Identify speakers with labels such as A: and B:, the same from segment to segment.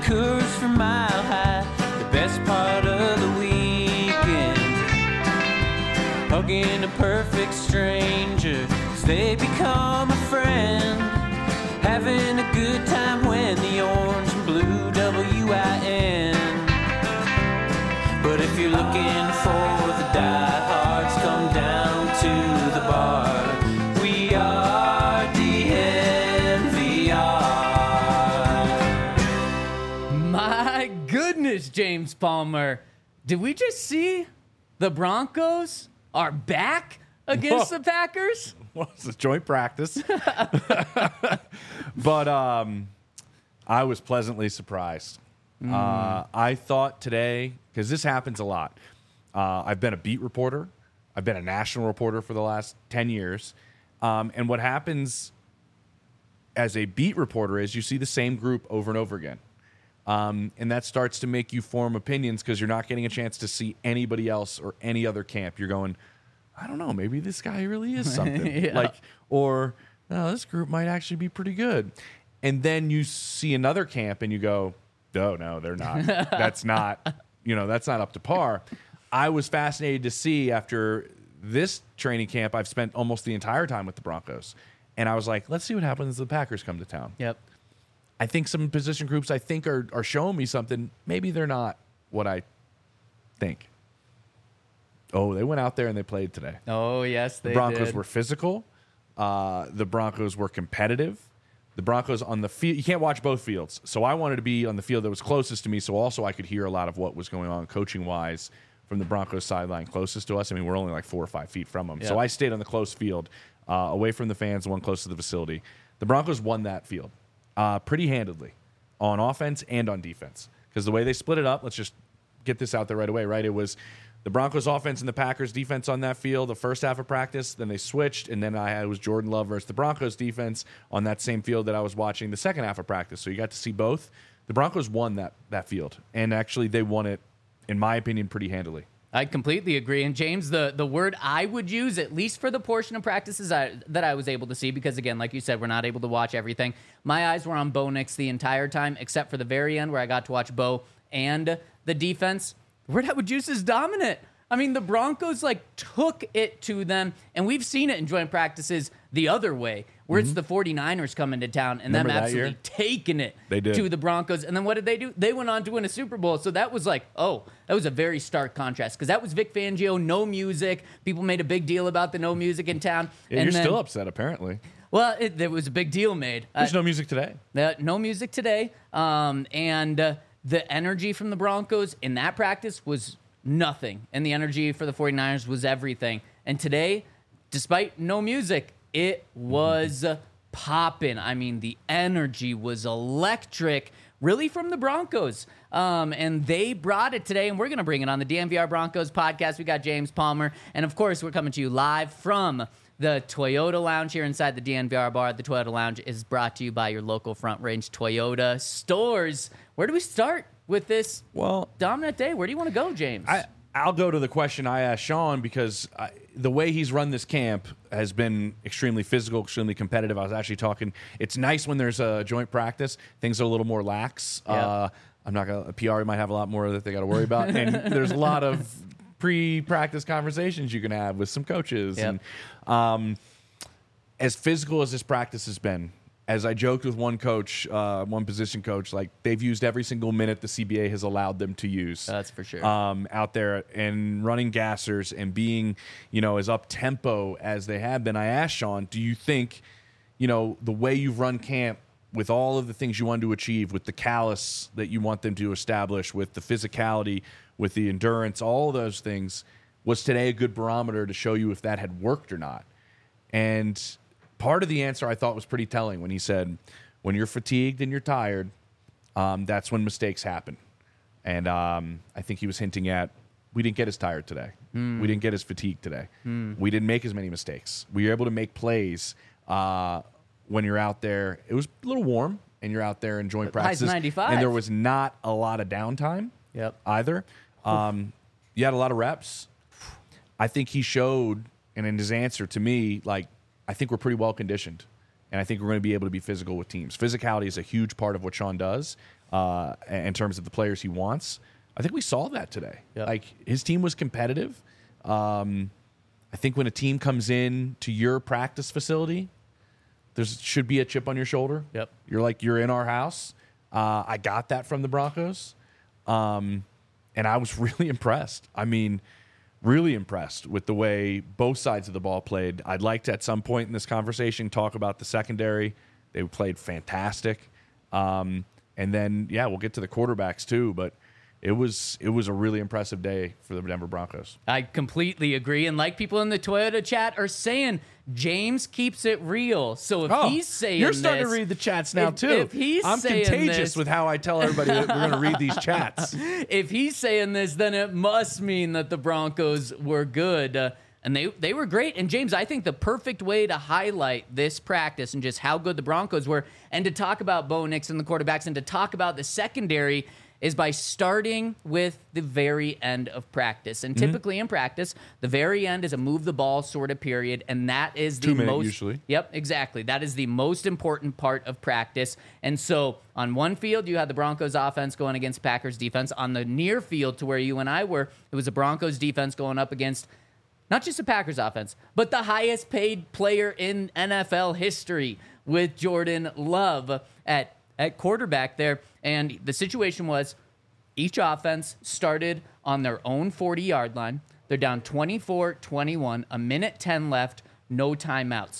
A: Coors from Mile High, the best part of the weekend. Hugging a perfect stranger as they become a friend. Having a good time when the orange and blue WIN. But if you're looking for the diehards, come down to the bar. We are DNVR.
B: My goodness, James Palmer. Did we just see the Broncos are back against the Packers?
C: Well, it's a joint practice. But I was pleasantly surprised. I thought today, because this happens a lot, I've been a beat reporter. I've been a national reporter for the last 10 years. And what happens as a beat reporter is you see the same group over and over again. And that starts to make you form opinions because you're not getting a chance to see anybody else or any other camp. You're going, I don't know, maybe this guy really is something.
B: Yeah.
C: Or no, this group might actually be pretty good. And then you see another camp and you go, oh, no, they're not. That's not up to par. I was fascinated to see after this training camp, I've spent almost the entire time with the Broncos. And I was like, let's see what happens as the Packers come to town.
B: Yep.
C: I think some position groups are showing me something. Maybe they're not what I think. Oh, they went out there and they played today.
B: Oh, yes, they
C: The Broncos
B: did.
C: were physical. The Broncos were competitive. The Broncos on the field, you can't watch both fields. So I wanted to be on the field that was closest to me so also I could hear a lot of what was going on coaching-wise from the Broncos sideline closest to us. I mean, we're only like 4 or 5 feet from them.
B: Yeah.
C: So I stayed on the close field, away from the fans, the one close to the facility. The Broncos won that field pretty handedly on offense and on defense because the way they split it up, let's just get this out there right away, right? It was the Broncos offense and the Packers defense on that field the first half of practice. Then they switched, and then it was Jordan Love versus the Broncos defense on that same field that I was watching the second half of practice. So you got to see both. The Broncos won that field, and actually they won it, in my opinion, pretty handily.
B: I completely agree. And James, the word I would use, at least for the portion of practices that I was able to see, because again, like you said, we're not able to watch everything. My eyes were on Bo Nix the entire time, except for the very end where I got to watch Bo and the defense. The word I would use is dominant. I mean, the Broncos took it to them, and we've seen it in joint practices the other way, where it's the 49ers coming to town and
C: Remember
B: them
C: that
B: absolutely
C: year?
B: taking it
C: They did.
B: to the Broncos. And then what did they do? They went on to win a Super Bowl. So that was that was a very stark contrast because that was Vic Fangio, no music. People made a big deal about the no music in town.
C: Yeah,
B: and
C: you're
B: then,
C: still upset, apparently.
B: Well, there was a big deal made.
C: There's no music today.
B: No music today. And the energy from the Broncos in that practice was nothing. And the energy for the 49ers was everything. And today, despite no music, it was popping. I mean, the energy was electric, really, from the Broncos. And they brought it today, and we're going to bring it on the DNVR Broncos podcast. We got James Palmer. And, of course, we're coming to you live from the Toyota Lounge here inside the DNVR bar. The Toyota Lounge is brought to you by your local Front Range Toyota stores. Where do we start with this dominant day? Where do you want to go, James?
C: I'll go to the question I asked Sean because the way he's run this camp has been extremely physical, extremely competitive. I was actually talking. It's nice when there's a joint practice. Things are a little more lax.
B: Yep.
C: I'm not going to, PR might have a lot more that they got to worry about. And there's a lot of pre-practice conversations you can have with some coaches.
B: Yep.
C: And as physical as this practice has been, as I joked with one coach, one position coach, they've used every single minute the CBA has allowed them to use.
B: That's for sure.
C: Out there and running gassers and being, as up-tempo as they have been. I asked Sean, do you think, the way you've run camp with all of the things you want to achieve, with the callus that you want them to establish, with the physicality, with the endurance, all of those things, was today a good barometer to show you if that had worked or not? And part of the answer I thought was pretty telling when he said, when you're fatigued and you're tired, that's when mistakes happen. And I think he was hinting at, we didn't get as tired today. We didn't get as fatigued today. We didn't make as many mistakes. We were able to make plays when you're out there. It was a little warm, and you're out there in joint practices.
B: 95.
C: And there was not a lot of downtime either. You had a lot of reps. I think he showed, and in his answer to me, I think we're pretty well conditioned. and I think we're going to be able to be physical with teams. Physicality is a huge part of what Sean does in terms of the players he wants. I think we saw that today.
B: Yep.
C: Like, his team was competitive. I think when a team comes in to your practice facility, there should be a chip on your shoulder.
B: Yep.
C: You're in our house. I got that from the Broncos. And I was really impressed. I mean, really impressed with the way both sides of the ball played. I'd like to, at some point in this conversation, talk about the secondary. They played fantastic. And then, we'll get to the quarterbacks too, but it was a really impressive day for the Denver Broncos.
B: I completely agree. And like people in the Toyota chat are saying, James keeps it real. So if he's saying
C: you're starting
B: this,
C: to read the chats now too.
B: If he's
C: I'm
B: saying
C: contagious
B: this,
C: with how I tell everybody that we're going to read these chats.
B: if he's saying this, then it must mean that the Broncos were good. And they were great. And James, I think the perfect way to highlight this practice and just how good the Broncos were, and to talk about Bo Nix and the quarterbacks, and to talk about the secondary, is by starting with the very end of practice. And typically in practice, the very end is a move the ball sort of period, and that is the
C: 2 minute
B: most
C: usually.
B: Yep, exactly. That is the most important part of practice. And so on one field, you had the Broncos offense going against Packers defense. On the near field to where you and I were, it was the Broncos defense going up against not just the Packers offense, but the highest paid player in NFL history with Jordan Love at quarterback there. And the situation was each offense started on their own 40-yard line. They're down 24-21, a minute 10 left, no timeouts.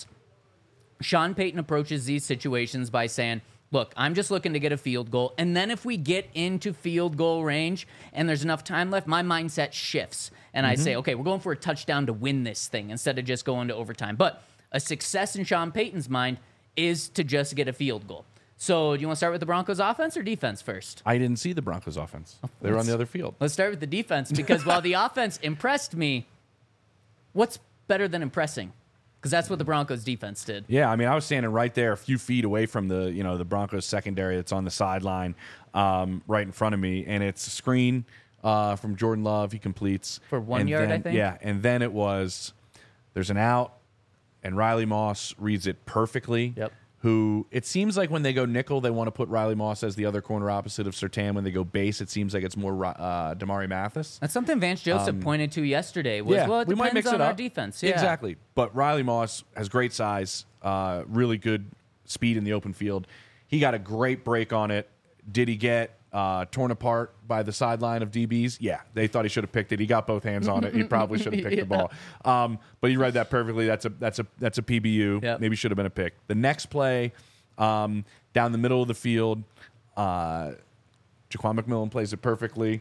B: Sean Payton approaches these situations by saying, look, I'm just looking to get a field goal. And then if we get into field goal range and there's enough time left, my mindset shifts. And I say, okay, we're going for a touchdown to win this thing instead of just going to overtime. But a success in Sean Payton's mind is to just get a field goal. So do you want to start with the Broncos offense or defense first?
C: I didn't see the Broncos offense. They were on the other field.
B: Let's start with the defense, because while the offense impressed me, what's better than impressing? Because that's what the Broncos defense did.
C: Yeah, I mean, I was standing right there, a few feet away from the Broncos secondary that's on the sideline, right in front of me, and it's a screen from Jordan Love. He completes
B: For 1 yard, I think.
C: Yeah, and then there's an out, and Riley Moss reads it perfectly.
B: Yep.
C: Who it seems like when they go nickel, they want to put Riley Moss as the other corner opposite of Surtain. When they go base, it seems like it's more Damari Mathis.
B: That's something Vance Joseph pointed to yesterday. Was, well, it
C: we might
B: depends
C: mix
B: on
C: it
B: our
C: up.
B: defense. Yeah.
C: Exactly. But Riley Moss has great size, really good speed in the open field. He got a great break on it. Did he get torn apart by the sideline of DBs? Yeah, they thought he should have picked it. He got both hands on it. He probably should have picked the ball. But you read that perfectly. That's a PBU.
B: Yep.
C: Maybe should have been a pick. The next play, down the middle of the field, Jaquan McMillan plays it perfectly.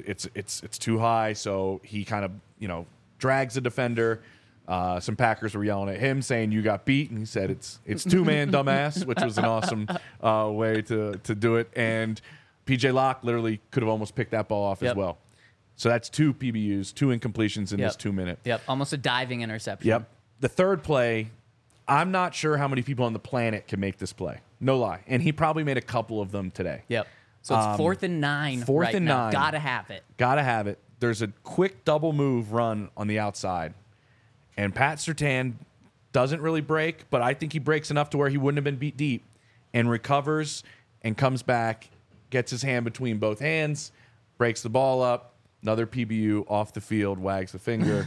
C: It's too high, so he kind of drags the defender. Some Packers were yelling at him, saying you got beat, and he said it's two-man dumbass, which was an awesome way to do it. And PJ Locke literally could have almost picked that ball off as well. So that's 2 PBUs, 2 incompletions in this 2 minute.
B: Yep, almost a diving interception.
C: Yep. The third play, I'm not sure how many people on the planet can make this play. No lie. And he probably made a couple of them today.
B: Yep. So it's 4th and 9.
C: Fourth
B: right
C: and
B: now.
C: 9.
B: Gotta have it.
C: Gotta have it. There's a quick double move run on the outside. And Pat Surtain doesn't really break, but I think he breaks enough to where he wouldn't have been beat deep, and recovers and comes back, gets his hand between both hands, breaks the ball up, another PBU off the field, wags the finger.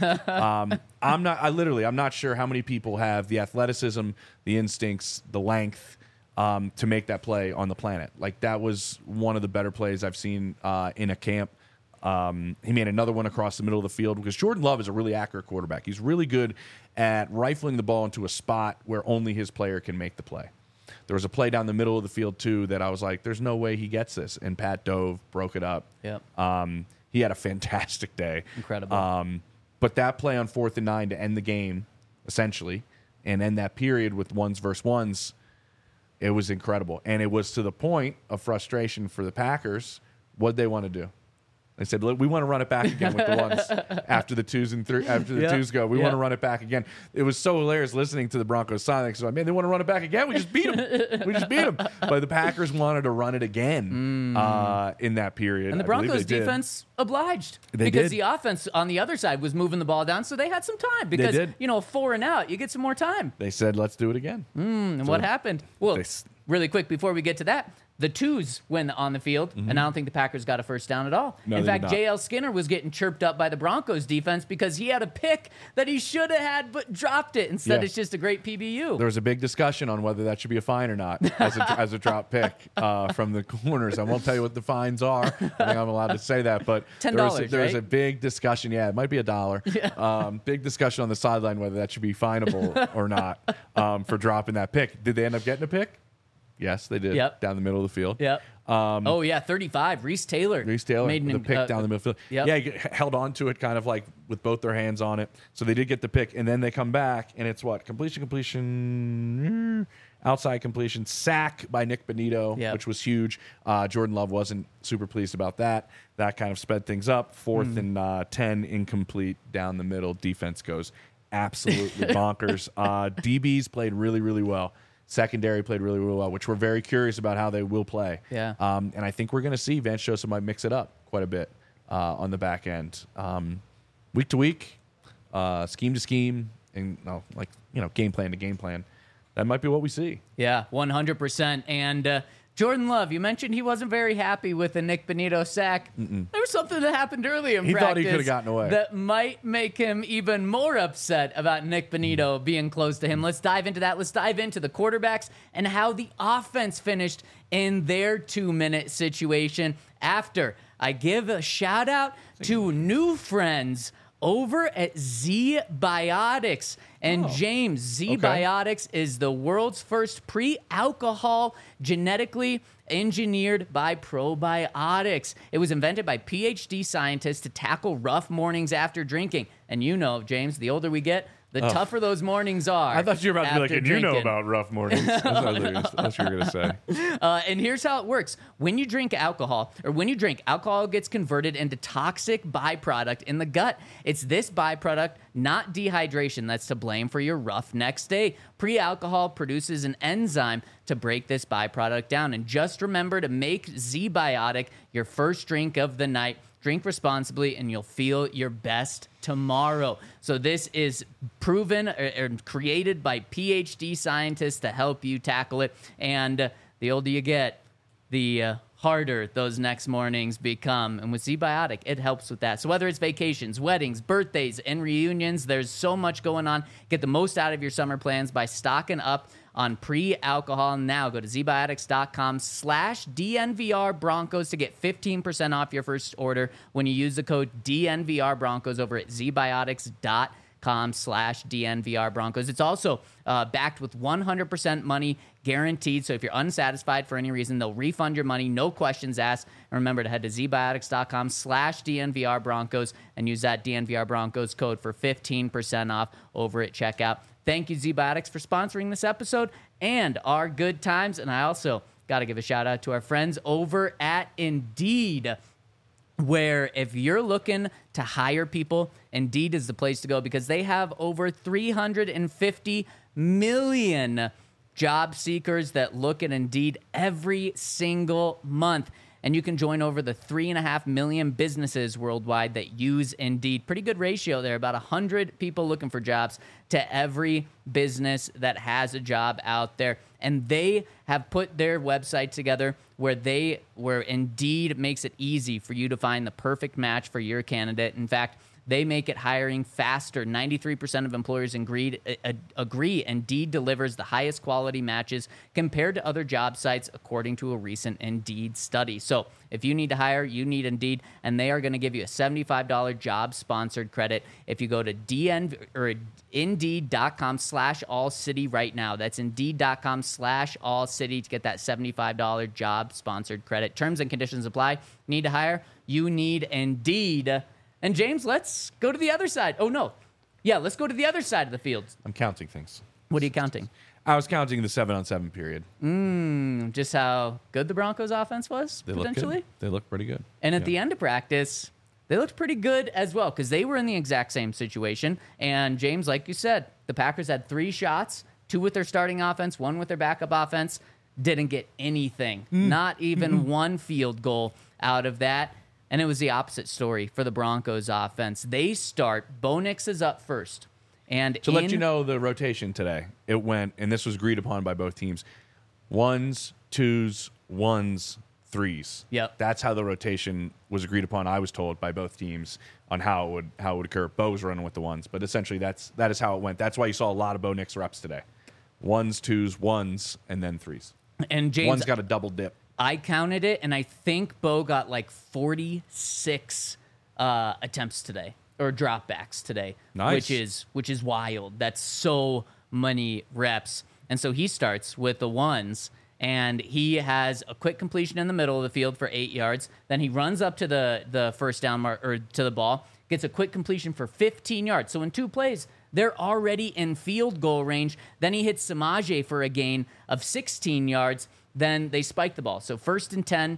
C: I'm not sure how many people have the athleticism, the instincts, the length to make that play on the planet. Like, that was one of the better plays I've seen in a camp. He made another one across the middle of the field, because Jordan Love is a really accurate quarterback. He's really good at rifling the ball into a spot where only his player can make the play. There was a play down the middle of the field, too, that I was like, there's no way he gets this. And Pat dove, broke it up.
B: Yep.
C: He had a fantastic day.
B: Incredible.
C: But that play on 4th and 9 to end the game, essentially, and end that period with ones versus ones, it was incredible. And it was to the point of frustration for the Packers. What'd they want to do? They said, "Look, we want to run it back again with the ones after the twos and after the twos go. We want to run it back again." It was so hilarious listening to the Broncos sign. Because man, they want to run it back again. We just beat them. But the Packers wanted to run it again in that period.
B: And the Broncos defense obliged because the offense on the other side was moving the ball down, so they had some time. Because 4 and out, you get some more time.
C: They said, "Let's do it again."
B: And what happened? Well, really quick before we get to that. The twos win on the field, and I don't think the Packers got a first down at all.
C: No,
B: in fact, J.L. Skinner was getting chirped up by the Broncos defense because he had a pick that he should have had but dropped it. Instead, it's just a great PBU.
C: There was a big discussion on whether that should be a fine or not as a drop pick from the corners. I won't tell you what the fines are. I think I'm allowed to say that, but
B: $10,
C: there was a big discussion. Yeah, it might be $1. Big discussion on the sideline whether that should be finable or not for dropping that pick. Did they end up getting a pick? Yes, they did.
B: Yep.
C: Down the middle of the field.
B: Yep. 35. Reese Taylor
C: made the pick down the middle of the field.
B: Yep.
C: Yeah, he held on to it kind of like with both their hands on it. So they did get the pick, and then they come back, and it's what? Completion, outside completion, sack by Nick Bonito, which was huge. Jordan Love wasn't super pleased about that. That kind of sped things up. 4th and 10, incomplete down the middle. Defense goes absolutely bonkers. DBs played really, really well. Secondary played really, really well, which we're very curious about how they will play.
B: Yeah.
C: And I think we're going to see Vance Joseph might mix it up quite a bit on the back end. Week to week, scheme to scheme, and game plan to game plan. That might be what we see.
B: Yeah, 100%. And Jordan Love, you mentioned he wasn't very happy with the Nick Bonito sack. There was something that happened early in practice.
C: He thought he could have gotten away.
B: That might make him even more upset about Nick Bonito being close to him. Let's dive into that. Let's dive into the quarterbacks and how the offense finished in their 2-minute situation after I give a shout out to new friends over at ZBiotics. And James, ZBiotics is the world's first pre-alcohol genetically engineered by probiotics. It was invented by PhD scientists to tackle rough mornings after drinking. And James, the older we get, the tougher those mornings are.
C: I thought you were about to be like, and
B: drinking.
C: you know about rough mornings. That's what you were going to say.
B: And here's how it works. When you drink alcohol, alcohol gets converted into toxic byproduct in the gut. It's this byproduct, not dehydration, that's to blame for your rough next day. Pre-alcohol produces an enzyme to break this byproduct down. And just remember to make ZBiotic your first drink of the night. Drink responsibly, and you'll feel your best tomorrow. So this is proven or created by PhD scientists to help you tackle it. And the older you get, the harder those next mornings become. And with ZBiotic, it helps with that. So whether it's vacations, weddings, birthdays, and reunions, there's so much going on. Get the most out of your summer plans by stocking up on pre-alcohol now. Go to zbiotics.com/DNVR Broncos to get 15% off your first order when you use the code DNVR Broncos over at zbiotics.com/DNVR Broncos. It's also backed with 100% money guaranteed. So if you're unsatisfied for any reason, they'll refund your money, no questions asked. And remember to head to zbiotics.com/DNVR Broncos and use that DNVR Broncos code for 15% off over at checkout. Thank you, ZBiotics, for sponsoring this episode and our good times. And I also got to give a shout out to our friends over at Indeed, where if you're looking to hire people, Indeed is the place to go because they have over 350 million job seekers that look at Indeed every single month. And you can join over the 3.5 million businesses worldwide that use Indeed. Pretty good ratio there, about 100 people looking for jobs to every business that has a job out there. And they have put their website together where Indeed makes it easy for you to find the perfect match for your candidate. In fact, they make it hiring faster. 93% of employers agree Indeed delivers the highest quality matches compared to other job sites, according to a recent Indeed study. So if you need to hire, you need Indeed, and they are going to give you a $75 job-sponsored credit if you go to Indeed.com/allcity right now. That's Indeed.com/allcity to get that $75 job-sponsored credit. Terms and conditions apply. Need to hire? You need Indeed. And James, let's go to the other side. Oh, no. Yeah, let's go to the other side of the field.
C: I'm counting things.
B: What are you counting?
C: I was counting the 7-on-7 period.
B: Just how good the Broncos offense was,
C: They
B: potentially.
C: look good. They look pretty good.
B: And at the end of practice, they looked pretty good as well because they were in the exact same situation. And James, like you said, the Packers had 3 shots, 2 with their starting offense, 1 with their backup offense. Didn't get anything, not even one field goal out of that. And it was the opposite story for the Broncos offense. They start, Bo Nix is up first. And
C: To let you know the rotation today, it went, and this was agreed upon by both teams, 1s, 2s, 1s, 3s.
B: Yep.
C: That's how the rotation was agreed upon, I was told, by both teams on how it would occur. Bo was running with the 1s, but essentially that is how it went. That's why you saw a lot of Bo Nix reps today. 1s, 2s, 1s, and then 3s.
B: And James,
C: One's got a double dip.
B: I counted it, and I think Bo got like 46 attempts today, or dropbacks today.
C: Nice.
B: Which is wild. That's so many reps. And so he starts with the 1s, and he has a quick completion in the middle of the field for 8 yards. Then he runs up to the first down mark, or to the ball, gets a quick completion for 15 yards. So in 2 plays, they're already in field goal range. Then he hits Samaje for a gain of 16 yards. Then they spike the ball. So 1st and 10.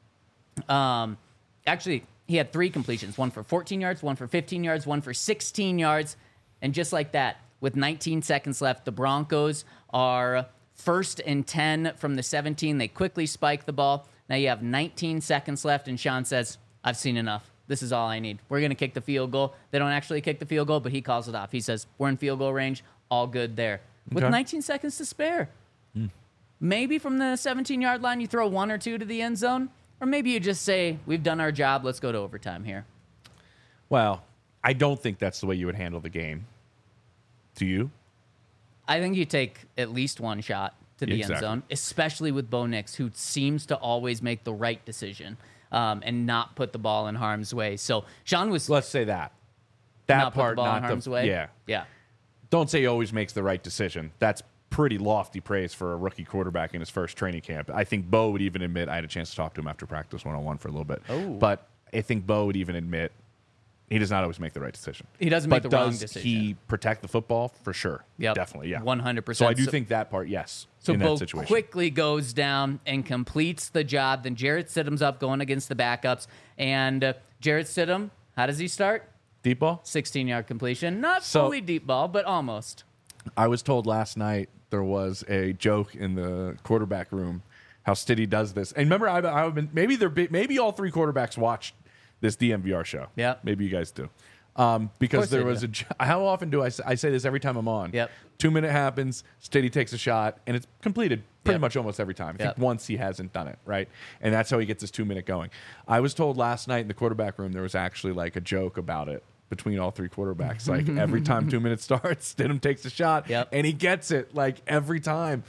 B: Actually, he had 3 completions, 1 for 14 yards, 1 for 15 yards, 1 for 16 yards. And just like that, with 19 seconds left, the Broncos are 1st and 10 from the 17. They quickly spike the ball. Now you have 19 seconds left, and Sean says, I've seen enough. This is all I need. We're going to kick the field goal. They don't actually kick the field goal, but he calls it off. He says, we're in field goal range. All good there. With 19 seconds to spare. Maybe from the 17-yard line, you throw 1 or 2 to the end zone. Or maybe you just say, we've done our job. Let's go to overtime here.
C: Well, I don't think that's the way you would handle the game. Do you?
B: I think you take at least 1 shot to the end zone, especially with Bo Nix, who seems to always make the right decision. And not put the ball in harm's way. So Sean was.
C: Let's say that
B: not
C: part,
B: put the ball
C: not
B: in harm's way.
C: Yeah. Don't say he always makes the right decision. That's pretty lofty praise for a rookie quarterback in his first training camp. I think Bo would even admit. I had a chance to talk to him after practice 1-on-1 for a little bit. But I think Bo would even admit he does not always make the right decision.
B: He doesn't make the wrong
C: does
B: decision.
C: he protect the football? For sure.
B: Yep.
C: Definitely, yeah.
B: 100%.
C: So I do think that part, yes,
B: So
C: in
B: Bo
C: that situation.
B: quickly goes down and completes the job. Then Jarrett Stidham's up going against the backups. And Jarrett Stidham, how does he start?
C: Deep ball?
B: 16-yard completion. Not fully deep ball, but almost.
C: I was told last night there was a joke in the quarterback room how Stiddy does this. And remember, I've been maybe all 3 quarterbacks watched this DMVR show.
B: Yeah.
C: Maybe you guys do. Because there was how often do I say this every time I'm on?
B: Yep.
C: 2-minute happens, Stiddy takes a shot, and it's completed pretty much almost every time. I think once he hasn't done it, right? And that's how he gets his 2-minute going. I was told last night in the quarterback room there was actually like a joke about it between all 3 quarterbacks. Like every time 2 minutes starts, Stidham takes a shot, and he gets it like every time.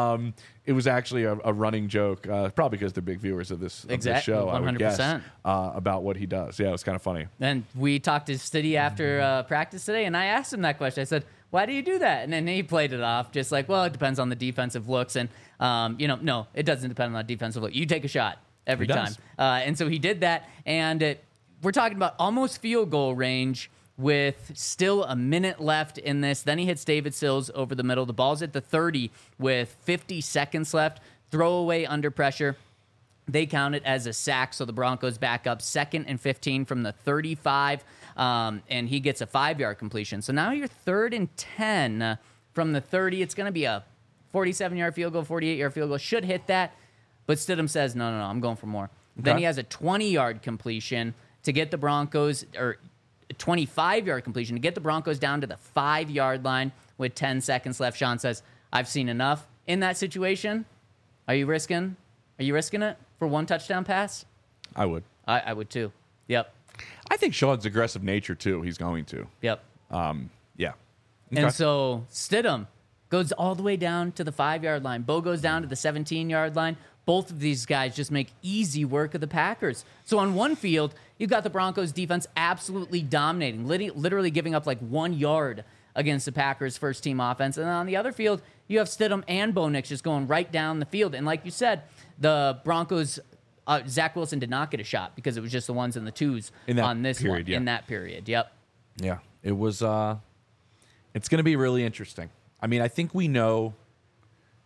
C: It was actually a running joke, probably because they're big viewers of this show, 100%. I would guess, about what he does. Yeah, it was kind of funny.
B: And we talked to Stiddy after practice today, and I asked him that question. I said, why do you do that? And then he played it off just like, well, it depends on the defensive looks. And, no, it doesn't depend on the defensive look. You take a shot every time. And so he did that. And we're talking about almost field goal range with still a minute left in this. Then he hits David Sills over the middle. The ball's at the 30 with 50 seconds left. Throwaway under pressure. They count it as a sack, so the Broncos back up 2nd and 15 from the 35, and he gets a 5-yard completion. So now you're 3rd and 10 from the 30. It's going to be a 47-yard field goal, 48-yard field goal. Should hit that, but Stidham says, no, I'm going for more. Okay. Then he has a 20-yard completion to get the Broncos, or 25-yard completion to get the Broncos down to the 5-yard line with 10 seconds left. Sean says, I've seen enough. In that situation, are you risking it for 1 touchdown pass?
C: I would.
B: I would too. Yep.
C: I think Sean's aggressive nature too. He's going to.
B: Yep.
C: Yeah.
B: And so Stidham goes all the way down to the 5-yard line. Bo goes down to the 17-yard line. Both of these guys just make easy work of the Packers. So on one field, you've got the Broncos defense absolutely dominating, literally giving up like 1 yard against the Packers' first-team offense. And then on the other field, you have Stidham and Bo Nix just going right down the field. And like you said, the Broncos, Zach Wilson did not get a shot because it was just the 1s and the 2s on this
C: period,
B: one. In that period, yep.
C: Yeah, it was. It's going to be really interesting. I mean, I think we know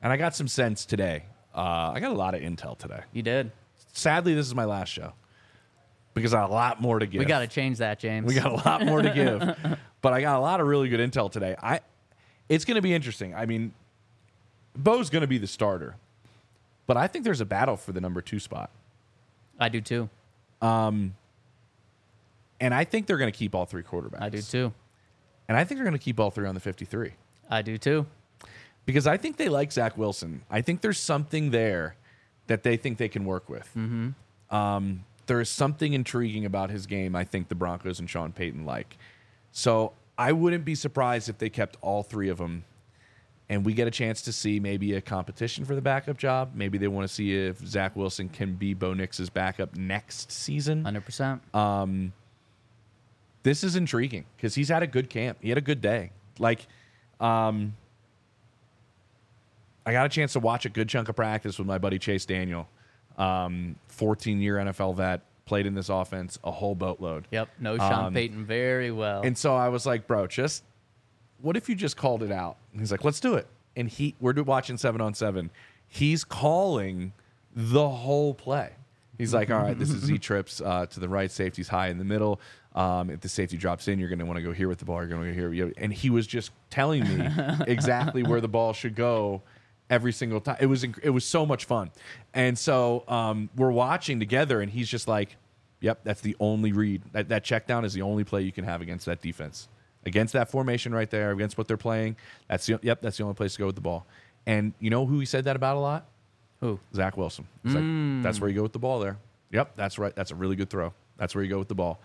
C: And I got some sense today. I got a lot of intel today.
B: You did.
C: Sadly, this is my last show because I got a lot more to give.
B: We got to change that, James.
C: We got a lot more to give. But I got a lot of really good intel today. It's going to be interesting. I mean, Bo's going to be the starter. But I think there's a battle for the number 2 spot.
B: I do too.
C: And I think they're going to keep all 3 quarterbacks.
B: I do too.
C: And I think they're going to keep all 3 on the 53.
B: I do too.
C: Because I think they like Zach Wilson. I think there's something there that they think they can work with. Mm-hmm. There is something intriguing about his game I think the Broncos and Sean Payton like. So I wouldn't be surprised if they kept all 3 of them and we get a chance to see maybe a competition for the backup job. Maybe they want to see if Zach Wilson can be Bo Nix's backup next season.
B: 100%.
C: This is intriguing because he's had a good camp. He had a good day. I got a chance to watch a good chunk of practice with my buddy Chase Daniel, 14-year NFL vet, played in this offense a whole boatload.
B: Yep, knows Sean Payton very well.
C: And so I was like, bro, what if you just called it out? And he's like, let's do it. And we're watching 7-on-7. He's calling the whole play. He's like, all right, this is Z trips to the right, safety's high in the middle. If the safety drops in, you're going to want to go here with the ball. You're going to go here. And he was just telling me exactly where the ball should go every single time. It was so much fun. And so we're watching together, and he's just like, yep, that's the only read. That check down is the only play you can have against that defense. Against that formation right there, against what they're playing, that's the only place to go with the ball. And you know who he said that about a lot?
B: Who?
C: Zach Wilson. He's like, that's where you go with the ball there. Yep, that's right. That's a really good throw. That's where you go with the ball.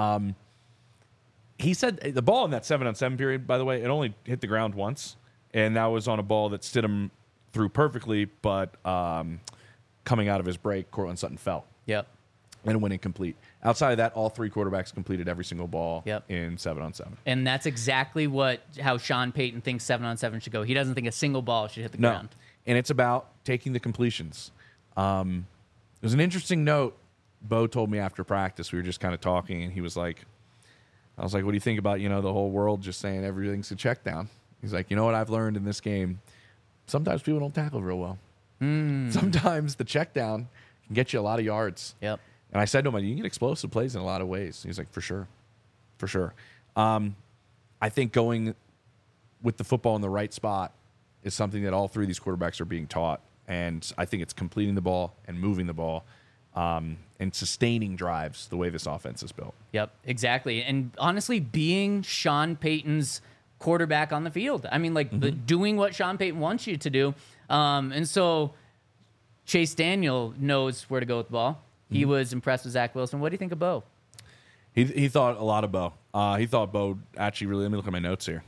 C: He said the ball in that 7-on-7 period, by the way, it only hit the ground once, and that was on a ball that Stidham threw perfectly, but coming out of his break, Cortland Sutton fell.
B: Yep.
C: And it went incomplete. Outside of that, all 3 quarterbacks completed every single ball in 7-on-7.
B: And that's exactly how Sean Payton thinks 7-on-7 should go. He doesn't think a single ball should hit the ground.
C: And it's about taking the completions. There's an interesting note Bo told me after practice. We were just kind of talking, and he was like, I was like, what do you think about, the whole world just saying everything's a check down? He's like, you know what I've learned in this game? Sometimes people don't tackle real well. Sometimes the check down can get you a lot of yards.
B: Yep.
C: And I said to him, you can get explosive plays in a lot of ways. He's like, for sure. For sure. I think going with the football in the right spot is something that all 3 of these quarterbacks are being taught. And I think it's completing the ball and moving the ball and sustaining drives the way this offense is built.
B: Yep, exactly. And honestly, being Sean Payton's quarterback on the field. I mean, doing what Sean Payton wants you to do. And so Chase Daniel knows where to go with the ball. He was impressed with Zach Wilson. What do you think of Bo?
C: He thought a lot of Bo. He thought Bo actually really. Let me look at my notes here.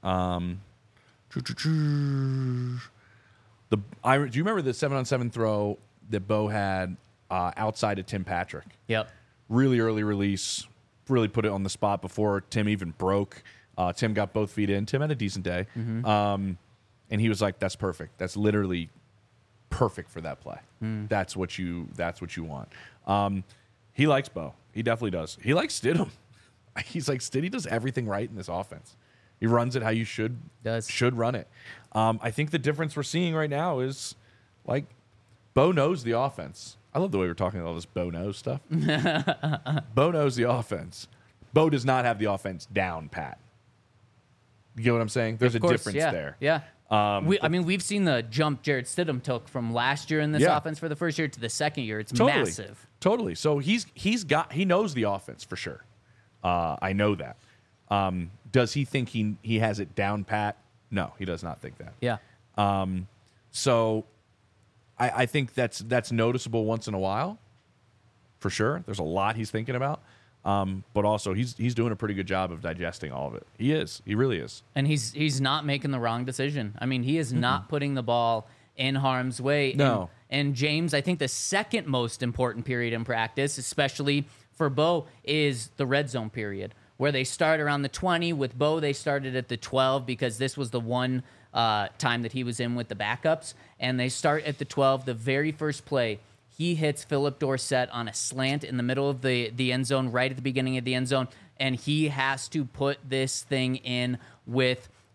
C: Do you remember the 7-on-7 throw that Bo had outside of Tim Patrick?
B: Yep.
C: Really early release. Really put it on the spot before Tim even broke. Tim got both feet in. Tim had a decent day. And he was like, that's perfect. That's literally perfect for that play. That's what you want. He likes Bo. He definitely does. He likes Stidham. He's like, Stidham does everything right in this offense. He runs it how you should run it. I think the difference we're seeing right now is like Bo knows the offense. I love the way we're talking about all this Bo knows stuff. Bo knows the offense. Bo does not have the offense down pat. You get what I'm saying? There's a difference there.
B: Yeah. We've seen the jump Jarrett Stidham took from last year in this offense for the first year to the second year. It's massive.
C: Totally. So he knows the offense for sure. I know that. Does he think he has it down pat? No, he does not think that.
B: Yeah.
C: So I think that's noticeable once in a while, for sure. There's a lot he's thinking about. But also he's doing a pretty good job of digesting all of it. He is. He really is.
B: And he's not making the wrong decision. I mean, he is not putting the ball in harm's way.
C: No.
B: And James, I think the second most important period in practice, especially for Bo, is the red zone period, where they start around the 20. With Bo, they started at the 12 because this was the one time that he was in with the backups. And they start at the 12. The very first play, he hits Philip Dorsett on a slant in the middle of the end zone, right at the beginning of the end zone, and he has to put this thing in with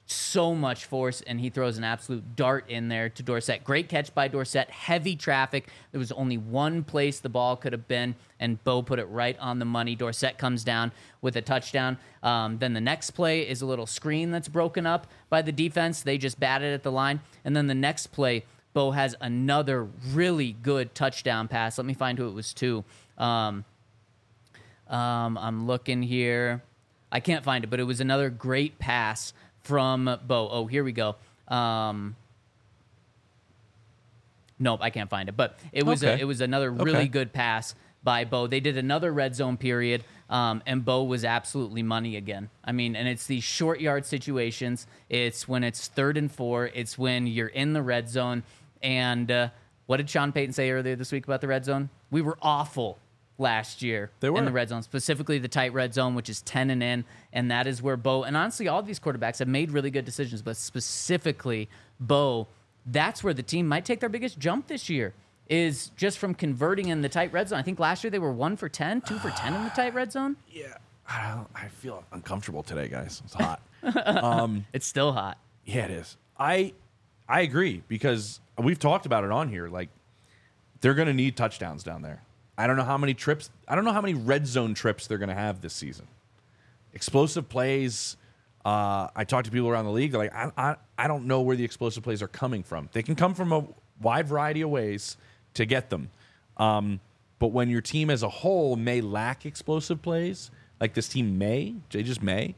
B: so much force, and he throws an absolute dart in there to Dorsett. Great catch by Dorsett. Heavy traffic. There was only one place the ball could have been, and Bo put it right on the money. Dorsett comes down with a touchdown. Then the next play is a little screen that's broken up by the defense. They just batted at the line. And then the next play, Bo has another really good touchdown pass. Let me find who it was to. I'm looking here. I can't find it, but it was another great pass from Bo. Oh, here we go. Nope, I can't find it. But it was
C: Okay.
B: it was another really
C: Okay.
B: good pass by Bo. They did another red zone period, and Bo was absolutely money again. I mean, and it's these short yard situations. It's when it's 3rd and 4. It's when you're in the red zone. And what did Sean Payton say earlier this week about the red zone? We were awful last year
C: They were.
B: in the red zone, specifically the tight red zone, which is 10 and in, and that is where Bo, and honestly, all of these quarterbacks have made really good decisions, but specifically Bo, that's where the team might take their biggest jump this year, is just from converting in the tight red zone. I think last year they were 1 for 10, 2 for 10 in the tight red zone.
C: Yeah, I feel uncomfortable today, guys. It's hot.
B: It's still hot.
C: Yeah, it is. I agree, because we've talked about it on here. Like, they're going to need touchdowns down there. I don't know how many red zone trips they're going to have this season. Explosive plays. I talk to people around the league. They're like, I don't know where the explosive plays are coming from. They can come from a wide variety of ways to get them. But when your team as a whole may lack explosive plays, like this team they just may,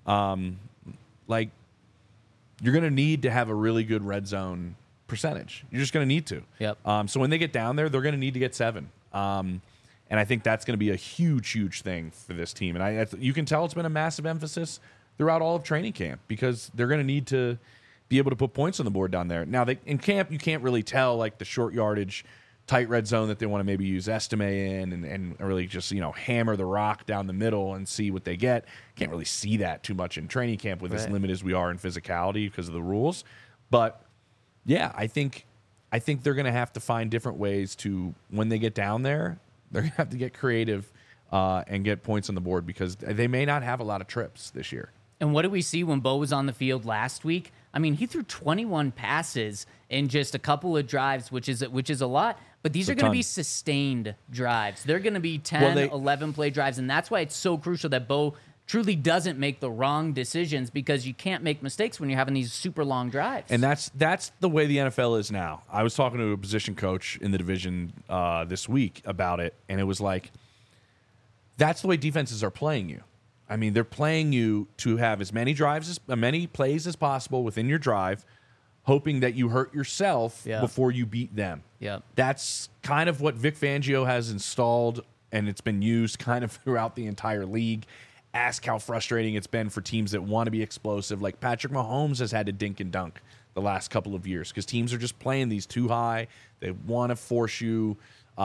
C: like, you're going to need to have a really good red zone percentage. You're just going to need to.
B: Yep.
C: So when they get down there, they're going to need to get 7. And I think that's going to be a huge, huge thing for this team. And you can tell it's been a massive emphasis throughout all of training camp, because they're going to need to be able to put points on the board down there. Now, in camp, you can't really tell, like, the short yardage, tight red zone that they want to maybe use Estime in and really just, hammer the rock down the middle and see what they get. Can't really see that too much in training camp with as limited as we are in physicality because of the rules. But, yeah, I think they're going to have to find different ways to, when they get down there, they're going to have to get creative and get points on the board, because they may not have a lot of trips this year.
B: And what did we see when Bo was on the field last week? I mean, he threw 21 passes in just a couple of drives, which is a lot. But these are going to be sustained drives. They're going to be 10, 11 play drives. And that's why it's so crucial that Bo truly doesn't make the wrong decisions, because you can't make mistakes when you're having these super long drives.
C: And that's the way the NFL is now. I was talking to a position coach in the division this week about it, and it was like, that's the way defenses are playing you. I mean, they're playing you to have as many plays as possible within your drive, hoping that you hurt yourself before you beat them.
B: Yeah.
C: That's kind of what Vic Fangio has installed, and it's been used kind of throughout the entire league. Ask how frustrating it's been for teams that want to be explosive. Like Patrick Mahomes has had to dink and dunk the last couple of years because teams are just playing these too high. They want to force you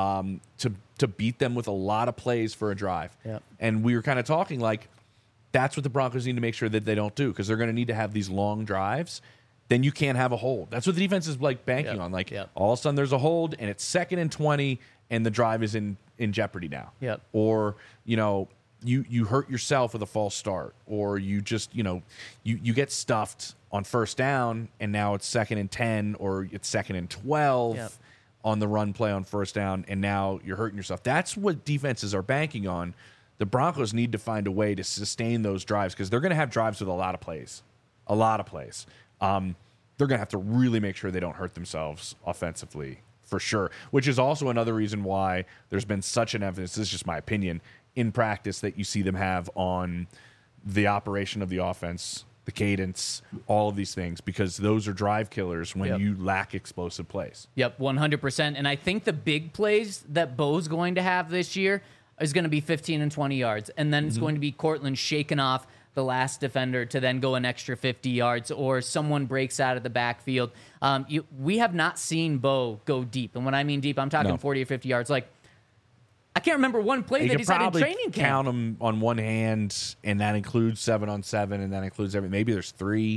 C: to beat them with a lot of plays for a drive.
B: Yep.
C: And we were kind of talking like that's what the Broncos need to make sure that they don't do, because they're going to need to have these long drives. Then you can't have a hold. That's what the defense is like banking on. Like all of a sudden there's a hold and it's 2nd and 20 and the drive is in jeopardy now.
B: Yep.
C: Or, you hurt yourself with a false start, or you just, you get stuffed on 1st down and now it's 2nd and 10 or it's 2nd and 12 on the run play on 1st down, and now you're hurting yourself. That's what defenses are banking on. The Broncos need to find a way to sustain those drives, because they're going to have drives with a lot of plays. They're going to have to really make sure they don't hurt themselves offensively, for sure, which is also another reason why there's been such an emphasis, this is just my opinion, in practice that you see them have on the operation of the offense, the cadence, all of these things, because those are drive killers when you lack explosive plays.
B: Yep, 100%. And I think the big plays that Bo's going to have this year is going to be 15 and 20 yards. And then it's going to be Cortland shaking off the last defender to then go an extra 50 yards, or someone breaks out of the backfield. We have not seen Bo go deep. And when I mean deep, I'm talking 40 or 50 yards. Like, I can't remember one play that he's had in training camp.
C: Count them on one hand, and that includes 7-on-7, and that includes everything. Maybe there's 3,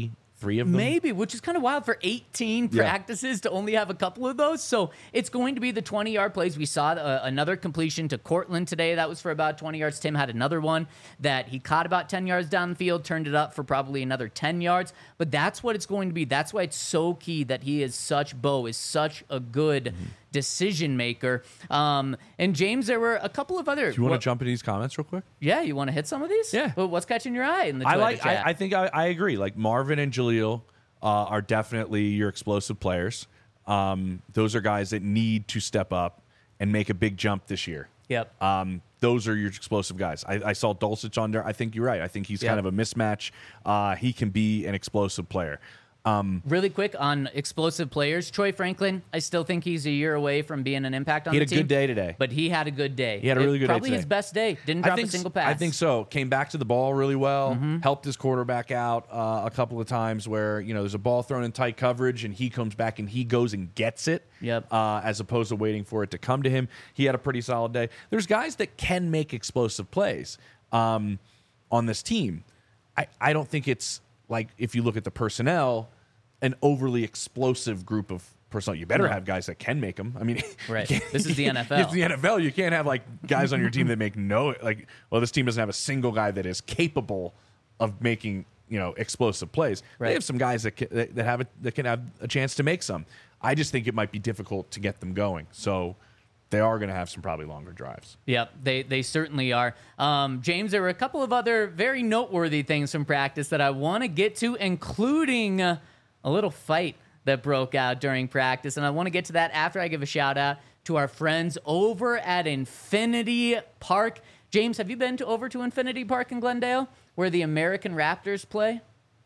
C: 3 of them.
B: Maybe, which is kind of wild for 18 practices to only have a couple of those. So it's going to be the 20-yard plays. We saw another completion to Cortland today. That was for about 20 yards. Tim had another one that he caught about 10 yards down the field, turned it up for probably another 10 yards. But that's what it's going to be. That's why it's so key that Bo is such a good decision maker. And James, there were a couple of other.
C: Do you want to jump into these comments real quick?
B: Yeah, you want to hit some of these?
C: Yeah.
B: But what's catching your eye in the Twitter chat?
C: I think I agree. Like Marvin and Jaleel are definitely your explosive players. Those are guys that need to step up and make a big jump this year.
B: Yep.
C: Those are your explosive guys. I saw Dulcich on there. I think you're right. I think he's kind of a mismatch. He can be an explosive player.
B: Really quick on explosive players, Troy Franklin, I still think he's a year away from being an impact on the team.
C: He had a good day today.
B: But he had a good day.
C: He had a really good day
B: Probably
C: today.
B: his best day. Didn't drop a single pass.
C: I think so. Came back to the ball really well. Helped his quarterback out a couple of times where, there's a ball thrown in tight coverage and he comes back and he goes and gets it.
B: Yep.
C: As opposed to waiting for it to come to him. He had a pretty solid day. There's guys that can make explosive plays on this team. I don't think it's like, if you look at the personnel, an overly explosive group of personnel. You better have guys that can make them. I mean,
B: right. This is the NFL.
C: It's the NFL. You can't have like guys on your team that make this team doesn't have a single guy that is capable of making, explosive plays.
B: Right.
C: They have some guys that can have a chance to make some. I just think it might be difficult to get them going. So they are going to have some probably longer drives.
B: Yep, they certainly are. James, there were a couple of other very noteworthy things from practice that I want to get to, including a little fight that broke out during practice. And I want to get to that after I give a shout out to our friends over at Infinity Park. James, have you been over to Infinity Park in Glendale where the American Raptors play?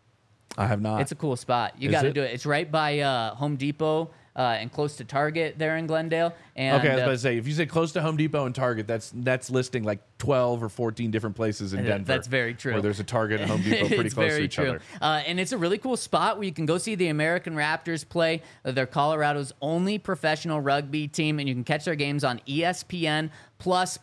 C: I have not.
B: It's a cool spot. You got to do it. It's right by Home Depot and close to Target there in Glendale. And,
C: okay, I was about to say, if you say close to Home Depot and Target, that's listing like 12 or 14 different places in Denver.
B: That's very true.
C: Where there's a Target and Home Depot pretty close to each other.
B: And it's a really cool spot where you can go see the American Raptors play. They're Colorado's only professional rugby team, and you can catch their games on ESPN+. Plus,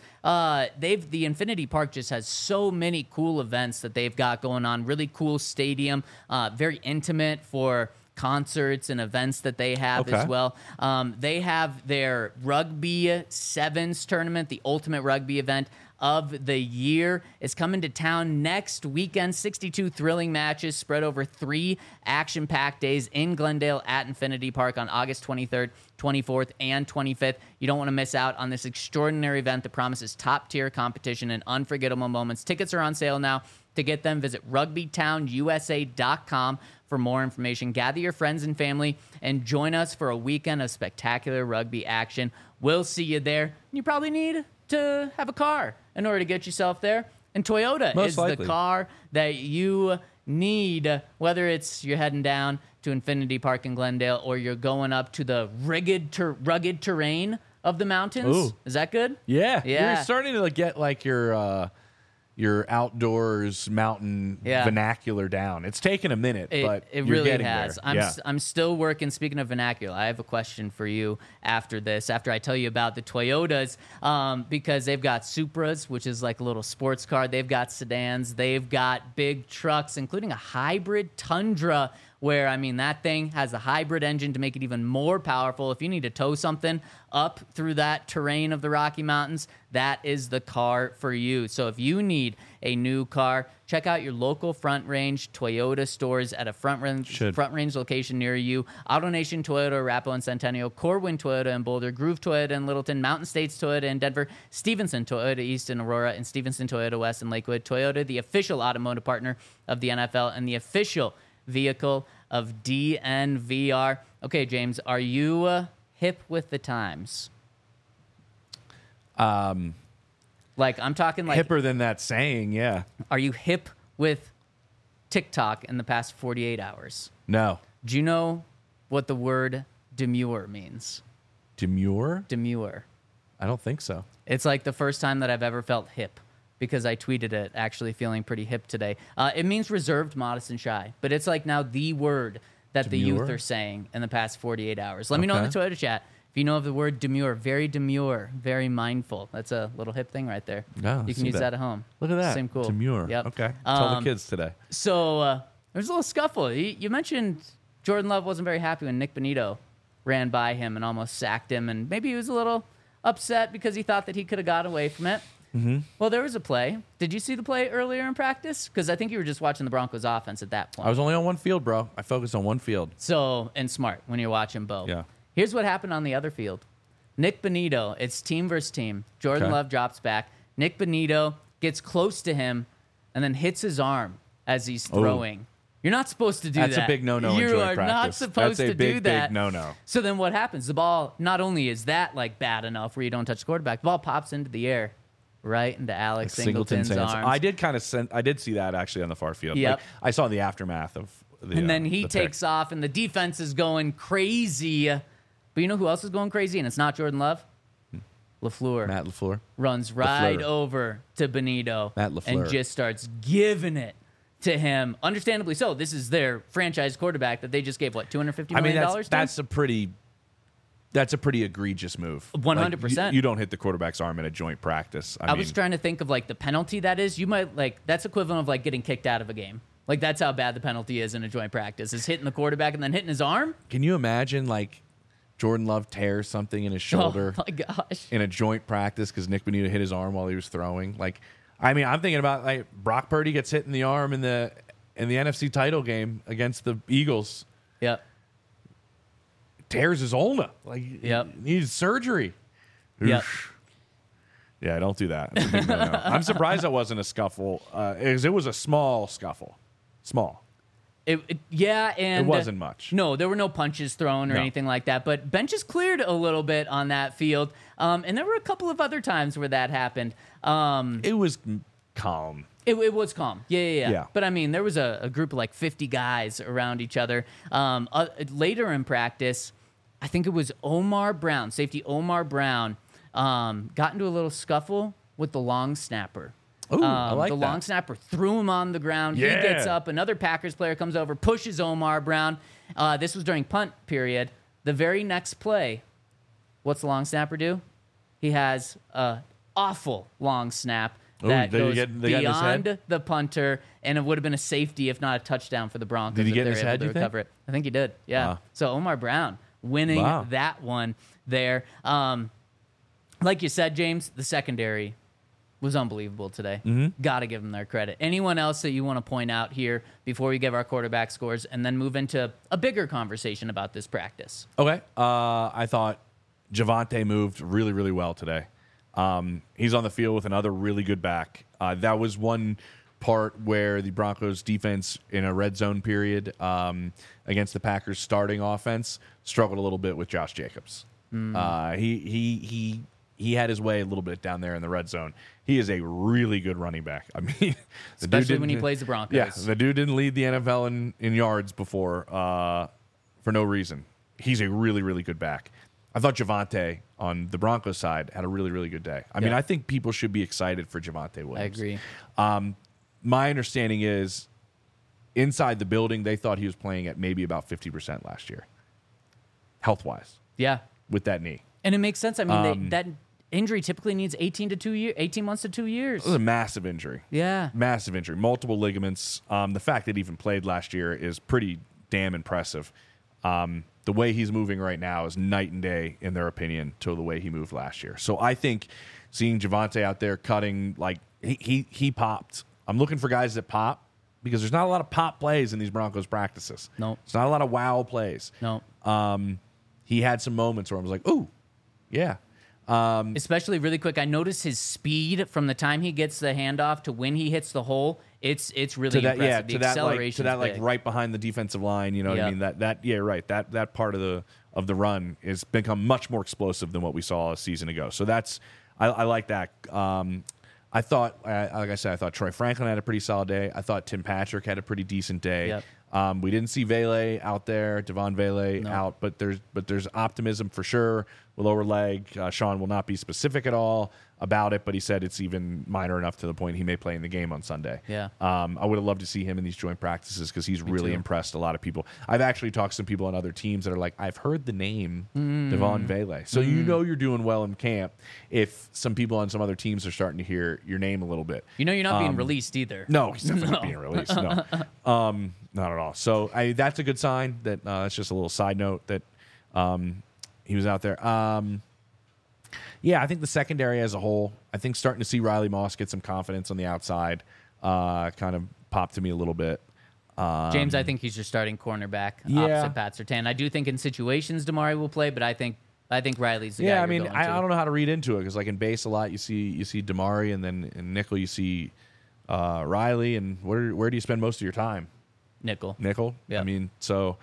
B: the Infinity Park just has so many cool events that they've got going on. Really cool stadium, very intimate for concerts and events that they have as well. They have their Rugby Sevens tournament, the ultimate rugby event of the year. Is coming to town next weekend. 62 thrilling matches spread over 3 action-packed days in Glendale at Infinity Park on August 23rd, 24th, and 25th. You don't want to miss out on this extraordinary event that promises top-tier competition and unforgettable moments. Tickets are on sale now. To get them, visit rugbytownusa.com for more information. Gather your friends and family and join us for a weekend of spectacular rugby action. We'll see you there. You probably need to have a car in order to get yourself there. And Toyota is the car that you need, whether it's you're heading down to Infinity Park in Glendale or you're going up to the rugged terrain of the mountains.
C: Ooh.
B: Is that good?
C: Yeah.
B: Yeah.
C: You're starting to get like your outdoors mountain vernacular down. It's taken a minute, but
B: it
C: you're
B: really
C: getting
B: has.
C: there.
B: I'm still working. Speaking of vernacular, I have a question for you after this, after I tell you about the Toyotas, because they've got Supras, which is like a little sports car. They've got sedans. They've got big trucks, including a hybrid Tundra, where, I mean, that thing has a hybrid engine to make it even more powerful. If you need to tow something up through that terrain of the Rocky Mountains, that is the car for you. So if you need a new car, check out your local Front Range Toyota stores at a Front Range location near you. AutoNation Toyota, Arapahoe and Centennial, Corwin Toyota in Boulder, Groove Toyota in Littleton, Mountain States Toyota in Denver, Stevenson Toyota East in Aurora, and Stevenson Toyota West in Lakewood. Toyota, the official automotive partner of the NFL and the official vehicle of DNVR. Okay, James, are you hip with the times? Like, I'm talking like
C: hipper than that saying, yeah.
B: Are you hip with TikTok in the past 48 hours?
C: No.
B: Do you know what the word demure means?
C: Demure?
B: Demure.
C: I don't think so.
B: It's like the first time that I've ever felt hip, because I tweeted it, actually feeling pretty hip today. It means reserved, modest, and shy. But it's like now the word that the youth are saying in the past 48 hours. Let me know in the Toyota chat if you know of the word demure. Very demure, very mindful. That's a little hip thing right there.
C: No,
B: you can use that at home.
C: Look at that.
B: Same cool.
C: Demure.
B: Yep.
C: Okay. Tell the kids today.
B: So was a little scuffle. You mentioned Jordan Love wasn't very happy when Nick Bonito ran by him and almost sacked him, and maybe he was a little upset because he thought that he could have got away from it. Mm-hmm. Well, there was a play. Did you see the play earlier in practice? Because I think you were just watching the Broncos offense at that point.
C: I was only on one field, bro. I focused on one field.
B: So, and smart when you're watching both.
C: Yeah.
B: Here's what happened on the other field. Nick Bonito, it's team versus team. Jordan Love drops back. Nick Bonito gets close to him and then hits his arm as he's throwing. You're not supposed to do that.
C: That's a big no-no in
B: You
C: joint
B: are
C: practice.
B: not supposed
C: That's a
B: to
C: big,
B: do that.
C: big no-no.
B: So then what happens? The ball, not only is that like bad enough where you don't touch the quarterback, the ball pops into the air, right into Alex Singleton's arms.
C: I did kind of I did see that actually on the far field.
B: Yep.
C: Like, I saw the aftermath of the
B: And then he
C: the
B: takes
C: pick.
B: off, and the defense is going crazy. But you know who else is going crazy? And it's not Jordan Love. LaFleur
C: Matt LaFleur.
B: runs right
C: LaFleur.
B: over to Benito
C: Matt LaFleur.
B: and just starts giving it to him. Understandably so. This is their franchise quarterback that they just gave, what, $250 million to?
C: That's a pretty egregious move.
B: 100%.
C: Like, you don't hit the quarterback's arm in a joint practice.
B: I was trying to think of like the penalty that is. You might that's equivalent of like getting kicked out of a game. Like that's how bad the penalty is in a joint practice. Is hitting the quarterback and then hitting his arm.
C: Can you imagine like Jordan Love tears something in his shoulder
B: Oh my gosh.
C: in a joint practice because Nick Bonito hit his arm while he was throwing? Like, I mean, I'm thinking about like Brock Purdy gets hit in the arm in the NFC title game against the Eagles.
B: Yep.
C: Tears his ulna. Like,
B: Yep.
C: needs surgery.
B: Yep.
C: Yeah, don't do that. That's a big no-no. I'm surprised that wasn't a scuffle. It was a small scuffle. Small.
B: And
C: It wasn't much.
B: No, there were no punches thrown or
C: No.
B: anything like that. But benches cleared a little bit on that field, and there were a couple of other times where that happened.
C: It was calm.
B: It was calm. Yeah.
C: Yeah.
B: But I mean, there was a group of like 50 guys around each other. Later in practice, I think it was Omar Brown, safety Omar Brown, got into a little scuffle with the long snapper.
C: Ooh, I like
B: the
C: that.
B: long snapper threw him on the ground.
C: Yeah.
B: He gets up. Another Packers player comes over, pushes Omar Brown. This was during punt period. The very next play, what's the long snapper do? He has a awful long snap that
C: Ooh,
B: goes
C: they got in his head?
B: beyond the punter, and it would have been a safety if not a touchdown for the Broncos.
C: Did he
B: if
C: get in
B: they're
C: his
B: able
C: head,
B: to
C: you think?
B: recover it. I think he did. Yeah.
C: Wow.
B: So Omar Brown winning
C: Wow.
B: that one there. Like you said, James, the secondary was unbelievable today. Got to give them their credit. Anyone else that you want to point out here before we give our quarterback scores and then move into a bigger conversation about this practice?
C: Okay. I thought Javonte moved really, really well today. He's on the field with another really good back. That was one part where the Broncos defense in a red zone period against the Packers starting offense struggled a little bit with Josh Jacobs. He had his way a little bit down there in the red zone. He is a really good running back. I mean, the
B: Especially
C: dude
B: when he
C: didn't-
B: plays the Broncos.
C: Yeah, the dude didn't lead the NFL in yards before for no reason. He's a really, really good back. I thought Javonte on the Broncos side had a really, really good day. I mean,
B: Yeah.
C: I think people should be excited for Javonte Williams.
B: I agree.
C: My understanding is inside the building, they thought he was playing at maybe about 50% last year, health-wise,
B: Yeah.
C: with that knee.
B: And it makes sense. I mean, that injury typically needs 18 months to 2 years.
C: It was a massive injury.
B: Yeah.
C: Massive injury. Multiple ligaments. The fact that he even played last year is pretty damn impressive. The way he's moving right now is night and day, in their opinion, to the way he moved last year. So I think seeing Javonte out there cutting, like, he popped. I'm looking for guys that pop because there's not a lot of pop plays in these Broncos practices.
B: Nope.
C: It's not a lot of wow plays.
B: No.
C: He had some moments where I was like, ooh, yeah.
B: Especially really quick. I noticed his speed from the time he gets the handoff to when he hits the hole. It's really
C: To that,
B: impressive.
C: yeah,
B: The acceleration,
C: right behind the defensive line. You know what I
B: Yeah.
C: mean? That right. That part of the run has become much more explosive than what we saw a season ago. So I like that. I thought, like I said, I thought Troy Franklin had a pretty solid day. I thought Tim Patrick had a pretty decent day.
B: Yep.
C: We didn't see Vele out there, Devon Vele out, but there's optimism for sure. With lower leg, Sean will not be specific at all about it, but he said it's even minor enough to the point he may play in the game on Sunday.
B: Yeah.
C: I would have loved to see him in these joint practices because he's really
B: too.
C: impressed a lot of people. I've actually talked to some people on other teams that are like, I've heard the name Devon Vele. So you know you're doing well in camp if some people on some other teams are starting to hear your name a little bit.
B: You know you're not being released either.
C: No, he's definitely not being released. No. Not at all. So that's a good sign. That's just a little side note that he was out there. Yeah, I think the secondary as a whole, I think starting to see Riley Moss get some confidence on the outside kind of popped to me a little bit.
B: James, I think he's your starting cornerback opposite Pat Surtain. I do think in situations Damari will play, but I think Riley's the guy.
C: Yeah, I
B: mean,
C: I don't know how to read into it because like in base a lot you see Damari, and then in nickel you see Riley, and where do you spend most of your time?
B: Nickel.
C: Yeah. I mean, so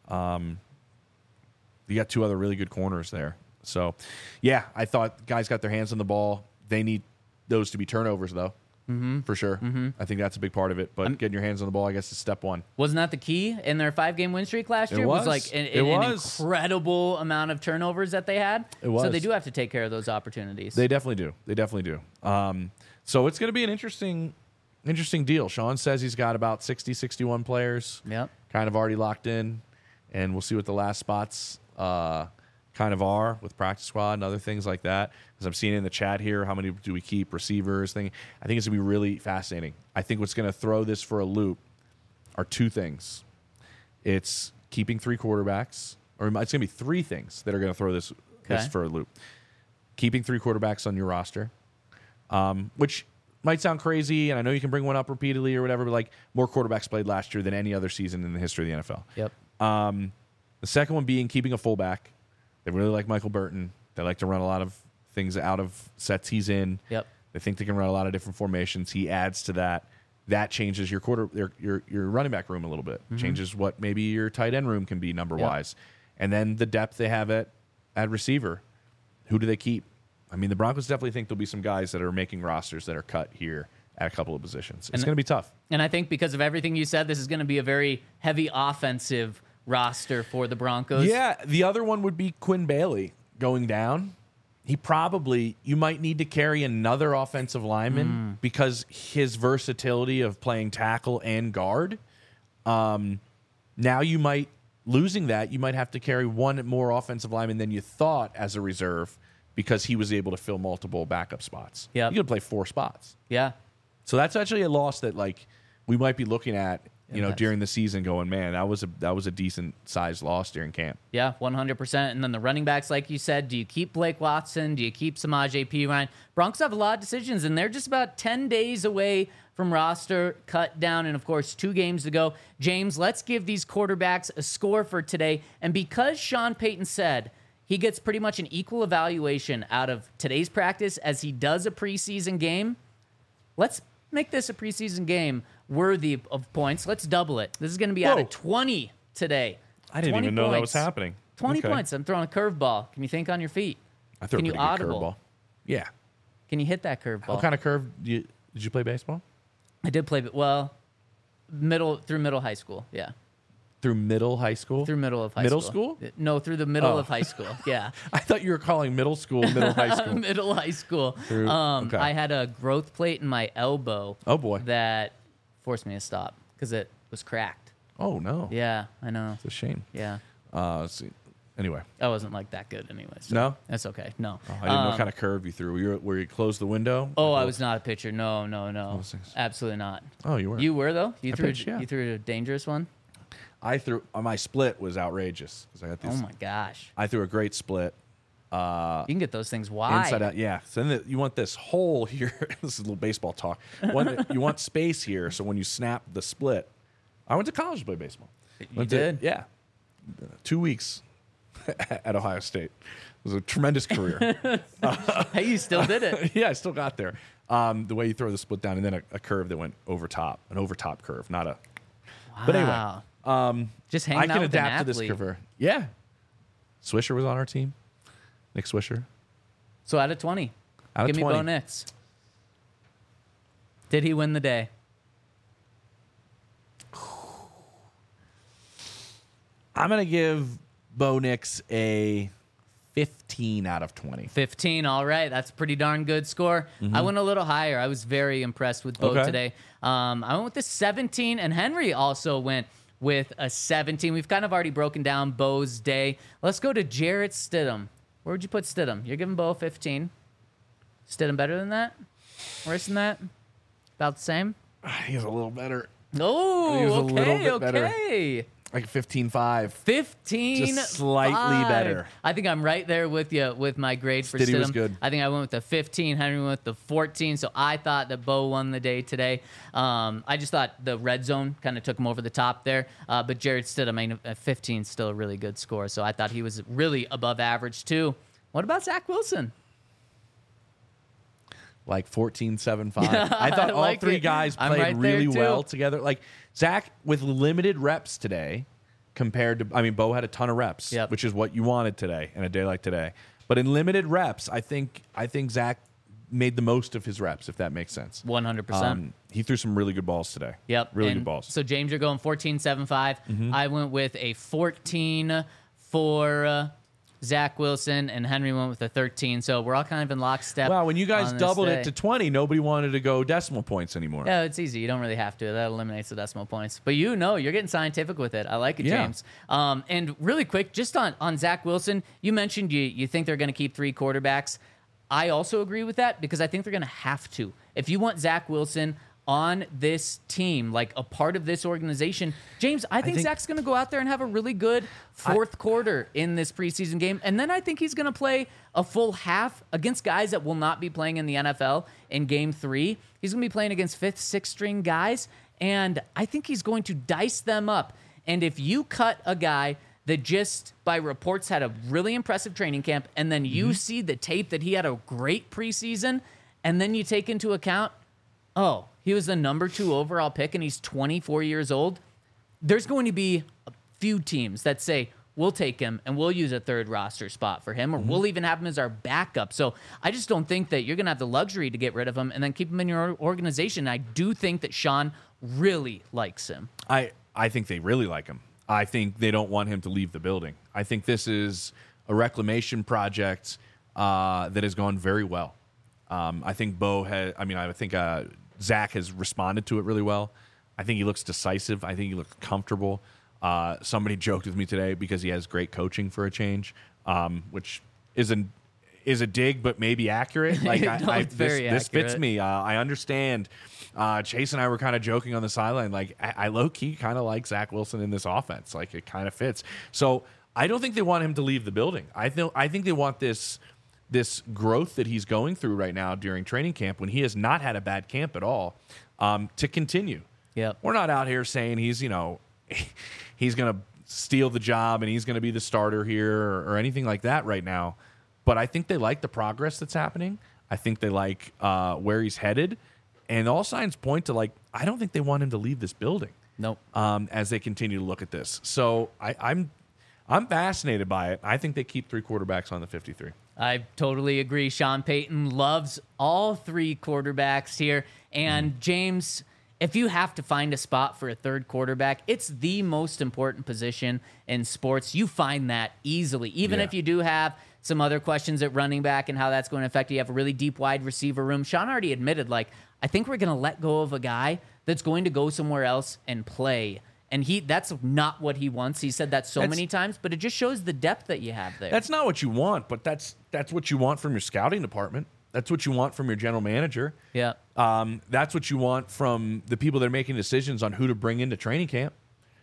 C: you got two other really good corners there. So, yeah, I thought guys got their hands on the ball. They need those to be turnovers, though, for sure. I think that's a big part of it. But getting your hands on the ball, I guess, is step one.
B: Wasn't that the key in their 5-game win streak last year?
C: It was.
B: Like an incredible amount of turnovers that they had.
C: It was.
B: So they do have to take care of those opportunities.
C: They definitely do. So it's going to be an interesting deal. Sean says he's got about 60, 61 players kind of already locked in, and we'll see what the last spots kind of are with practice squad and other things like that. Because I'm seeing in the chat here, how many do we keep, receivers, thing. I think it's going to be really fascinating. I think what's going to throw this for a loop are two things. It's keeping 3 quarterbacks, or it's going to be 3 things that are going to throw this for a loop. Keeping 3 quarterbacks on your roster, which might sound crazy, and I know you can bring one up repeatedly or whatever, but like more quarterbacks played last year than any other season in the history of the NFL.
B: Yep.
C: The second one being keeping a fullback. They really like Michael Burton. They like to run a lot of things out of sets he's in.
B: Yep.
C: They think they can run a lot of different formations. He adds to that. That changes your running back room a little bit. Changes what maybe your tight end room can be number wise. And then the depth they have at receiver. Who do they keep? I mean, the Broncos definitely think there'll be some guys that are making rosters that are cut here at a couple of positions. It's going to be tough.
B: And I think because of everything you said, this is going to be a very heavy offensive roster for the Broncos.
C: Yeah, the other one would be Quinn Bailey going down. You might need to carry another offensive lineman because his versatility of playing tackle and guard. Now you might, losing that, you might have to carry one more offensive lineman than you thought as a reserve because he was able to fill multiple backup spots.
B: Yeah,
C: you could play 4 spots.
B: Yeah.
C: So that's actually a loss that like we might be looking at during the season going, man, that was a decent sized loss during camp.
B: Yeah, 100%. And then the running backs, like you said, do you keep Blake Watson? Do you keep Samaje Perine? Broncos have a lot of decisions, and they're just about 10 days away from roster cut down, and of course 2 games to go. James, let's give these quarterbacks a score for today. And because Sean Payton said he gets pretty much an equal evaluation out of today's practice as he does a preseason game, let's make this a preseason game worthy of points. Let's double it. This is going to be out of 20 today.
C: I didn't even know that was happening.
B: 20 points. I'm throwing a curveball. Can you think on your feet?
C: I threw a pretty good curveball. Yeah.
B: Can you hit that curveball?
C: What kind of curve did you play baseball?
B: I did play, through middle high school. Yeah.
C: Through middle high school?
B: Through middle of high
C: school.
B: Middle school? No, through the middle of high school. Yeah.
C: I thought you were calling middle school middle high school.
B: Middle high school. I had a growth plate in my elbow.
C: Oh, boy.
B: That forced me to stop because it was cracked.
C: Oh, no.
B: Yeah, I know.
C: It's a shame.
B: Yeah.
C: Let's see. Anyway.
B: I wasn't like that good anyway. So
C: no?
B: That's okay. No.
C: Oh, I didn't know what kind of curve you threw. Were you closed the window?
B: Oh, I was not a pitcher. No. Absolutely not.
C: Oh, you were?
B: You were, though? You threw a dangerous one?
C: I threw my split was outrageous because I got these.
B: Oh my gosh!
C: I threw a great split.
B: You can get those things wide.
C: Inside out, yeah. So then you want this hole here. This is a little baseball talk. You want space here, so when you snap the split. I went to college to play baseball.
B: You did?
C: Yeah. 2 weeks at Ohio State. It was a tremendous career.
B: Hey, you still did it.
C: Yeah, I still got there. The way you throw the split down, and then a curve that went over top, an over top curve, not a.
B: Wow.
C: But anyway.
B: Just hanging
C: I
B: out
C: can
B: with
C: adapt
B: an
C: to this
B: athlete.
C: curve. Yeah. Swisher was on our team. Nick Swisher.
B: So out of 20.
C: Out of
B: Give
C: 20.
B: me Bo Nix. Did he win the day?
C: I'm going to give Bo Nix a 15 out of 20.
B: 15, all right. That's a pretty darn good score. I went a little higher. I was very impressed with Bo today. I went with the 17, and Henry also went with a 17. We've kind of already broken down Bo's day. Let's go to Jarrett Stidham. Where would you put Stidham? You're giving Bo a 15. Stidham better than that? Worse than that? About the same?
C: He's a little better.
B: Oh,
C: He was a little bit better.
B: okay.
C: Like 15-5.
B: 15,
C: Just slightly better.
B: I think I'm right there with you with my grade for
C: Stiddy was
B: Stidham.
C: good.
B: I think I went with the 15. Henry went with the 14. So I thought that Bo won the day today. I just thought the red zone kind of took him over the top there. But Jared Stidham, I mean, 15 is still a really good score. So I thought he was really above average too. What about Zach Wilson?
C: Like 14-7-5. I thought
B: I
C: all
B: like
C: three
B: it.
C: guys
B: I'm
C: played
B: right there,
C: really
B: too.
C: well together. Like Zach with limited reps today compared to, I mean, Bo had a ton of reps,
B: Yep.
C: which is what you wanted today in a day like today. But in limited reps, I think Zach made the most of his reps, if that makes sense.
B: 100%.
C: He threw some really good balls today.
B: Yep.
C: Really
B: And
C: good balls.
B: So, James, you're going 14-7-5. I went with a 14 for Zach Wilson, and Henry went with a 13. So, we're all kind of in lockstep.
C: Wow, when you guys
B: on this
C: doubled
B: day.
C: it to 20, nobody wanted to go decimal points anymore.
B: Yeah, it's easy. You don't really have to. That eliminates the decimal points. But you're getting scientific with it. I like it,
C: Yeah.
B: James. And really quick, just on Zach Wilson, you mentioned you think they're going to keep 3 quarterbacks. I also agree with that because I think they're going to have to. If you want Zach Wilson on this team, like a part of this organization, James, I think Zach's going to go out there and have a really good fourth quarter in this preseason game. And then I think he's going to play a full half against guys that will not be playing in the NFL in game 3. He's going to be playing against 5th, 6th string guys. And I think he's going to dice them up. And if you cut a guy that just by reports had a really impressive training camp, and then you see the tape that he had a great preseason, and then you take into account, oh, he was the number 2 overall pick and he's 24 years old, there's going to be a few teams that say, we'll take him and we'll use a 3rd roster spot for him, or we'll even have him as our backup. So I just don't think that you're going to have the luxury to get rid of him and then keep him in your organization. I do think that Sean really likes him.
C: I think they really like him. I think they don't want him to leave the building. I think this is a reclamation project that has gone very well. I think Zach has responded to it really well. I think he looks decisive. I think he looks comfortable. Somebody joked with me today because he has great coaching for a change, which is a dig, but maybe accurate. Like this fits me. I understand. Chase and I were kind of joking on the sideline. Like I low key kind of like Zach Wilson in this offense. Like it kind of fits. So I don't think they want him to leave the building. I think they want this growth that he's going through right now during training camp, when he has not had a bad camp at all, to continue.
B: Yep.
C: We're not out here saying he's going to steal the job and he's going to be the starter here or anything like that right now. But I think they like the progress that's happening. I think they like where he's headed. And all signs point to, I don't think they want him to leave this building.
B: Nope.
C: As they continue to look at this. So I'm fascinated by it. I think they keep 3 quarterbacks on the 53.
B: I totally agree. Sean Payton loves all 3 quarterbacks here. And James, if you have to find a spot for a 3rd quarterback, it's the most important position in sports. You find that easily. Even if you do have some other questions at running back and how that's going to affect you, have a really deep wide receiver room. Sean already admitted, I think we're going to let go of a guy that's going to go somewhere else and play. And that's not what he wants. He said that so many times, but it just shows the depth that you have there.
C: That's not what you want, but that's what you want from your scouting department. That's what you want from your general manager.
B: Yeah.
C: That's what you want from the people that are making decisions on who to bring into training camp.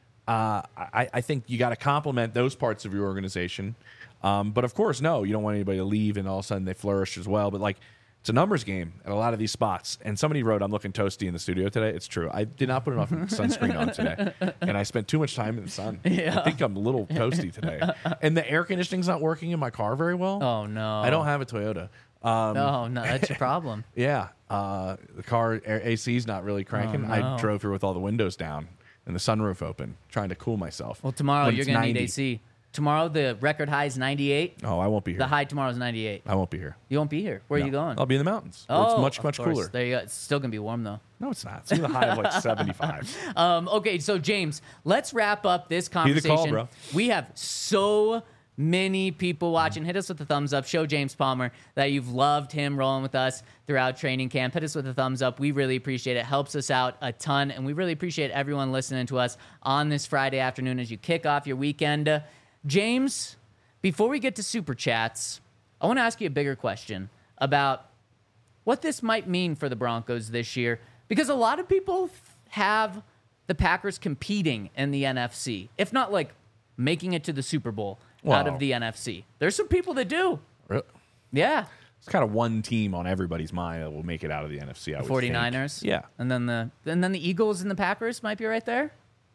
C: I think you got to compliment those parts of your organization. But of course, no, you don't want anybody to leave and all of a sudden they flourish as well. But it's a numbers game at a lot of these spots. And somebody wrote, I'm looking toasty in the studio today. It's true. I did not put enough sunscreen on today. And I spent too much time in the sun.
B: Yeah.
C: I think I'm a little toasty today. And the air conditioning's not working in my car very well.
B: Oh, no.
C: I don't have a Toyota.
B: No, that's your problem.
C: Yeah. The car AC's not really cranking.
B: Oh, no.
C: I drove here with all the windows down and the sunroof open, trying to cool myself.
B: Well, tomorrow
C: When
B: you're
C: it's
B: going to
C: 90.
B: need AC. Tomorrow the record high is 98.
C: Oh, I won't be here.
B: The high tomorrow is 98.
C: I won't be here.
B: You won't be here. Where are you
C: No.
B: going?
C: I'll be in the mountains. Where it's much,
B: of
C: much
B: course.
C: cooler.
B: There you go. It's still going to be warm, though.
C: No, it's not. It's going to be a high of 75.
B: Okay, so James, let's wrap up this
C: Be
B: conversation.
C: the call, bro.
B: We have so many people watching. Hit us with a thumbs up. Show James Palmer that you've loved him rolling with us throughout training camp. Hit us with a thumbs up. We really appreciate it. Helps us out a ton, and we really appreciate everyone listening to us on this Friday afternoon as you kick off your weekend. James, before we get to Super Chats, I want to ask you a bigger question about what this might mean for the Broncos this year, because a lot of people have the Packers competing in the NFC, if not like making it to the Super Bowl out of the NFC. There's some people that do.
C: Really?
B: Yeah.
C: It's kind of one team on everybody's mind that will make it out of the NFC. I would
B: 49ers.
C: think. Yeah.
B: And then the Eagles and the Packers might be right there.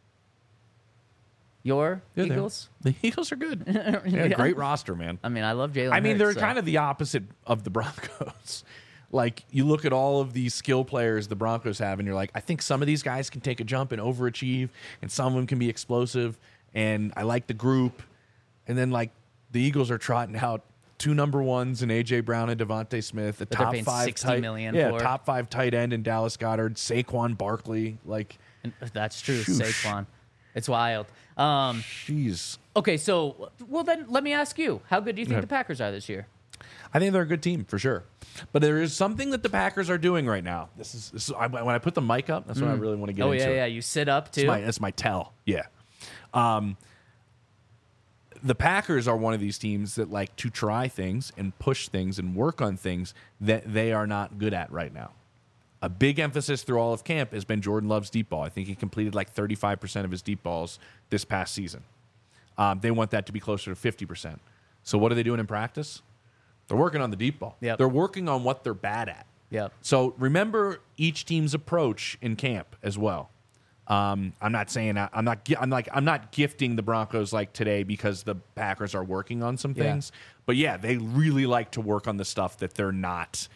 B: Your Eagles?
C: The Eagles are good. Yeah, great roster, man.
B: I mean, I love Jalen
C: I mean,
B: Hurts,
C: they're
B: so.
C: kind of the opposite of the Broncos. Like, you look at all of these skill players the Broncos have, and you're like, I think some of these guys can take a jump and overachieve, and some of them can be explosive, and I like the group. And then, like, the Eagles are trotting out 2 number ones in A.J. Brown and Devontae Smith, a
B: But they're
C: top
B: paying
C: 5
B: $60
C: tight,
B: million
C: yeah,
B: for.
C: top 5 tight end in Dallas Goedert, Saquon Barkley. Like,
B: That's true,
C: Shoosh.
B: Saquon. It's wild.
C: jeez.
B: Okay, so, well, then let me ask you. How good do you think
C: Okay.
B: the Packers are this year?
C: I think they're a good team for sure, but there is something that the Packers are doing right now. When I put the mic up, that's what I really want to get
B: Oh,
C: into.
B: yeah. You sit up, too?
C: That's my tell. Yeah. The Packers are one of these teams that like to try things and push things and work on things that they are not good at right now. A big emphasis through all of camp has been Jordan Love's deep ball. I think he completed like 35% of his deep balls this past season. They want that to be closer to 50%. So what are they doing in practice? They're working on the deep ball.
B: Yep.
C: They're working on what they're bad at.
B: Yep.
C: So remember each team's approach in camp as well. I'm not saying I'm not gifting the Broncos like today because the Packers are working on some things. But yeah, they really like to work on the stuff that they're not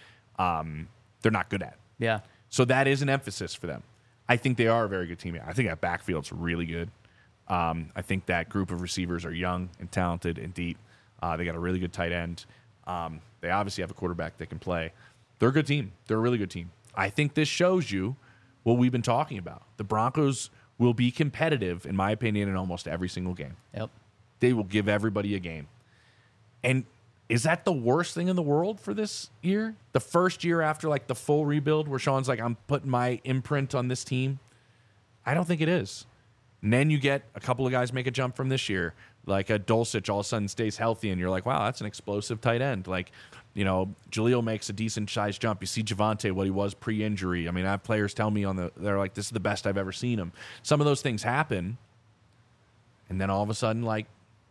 C: good at.
B: Yeah.
C: So that is an emphasis for them. I think they are a very good team. I think that backfield's really good. I think that group of receivers are young and talented and deep. They got a really good tight end. They obviously have a quarterback that can play. They're a good team. They're a really good team. I think this shows you what we've been talking about. The Broncos will be competitive, in my opinion, in almost every single game.
B: Yep.
C: They will give everybody a game. And is that the worst thing in the world for this year? The first year after like the full rebuild where Sean's like, I'm putting my imprint on this team? I don't think it is. And then you get a couple of guys make a jump from this year, like a Dulcich all of a sudden stays healthy, and you're like, wow, that's an explosive tight end. Like, you know, Jaleel makes a decent-sized jump. You see Javonte, what he was pre-injury. I mean, I have players tell me they're like, this is the best I've ever seen him. Some of those things happen, and then all of a sudden, like,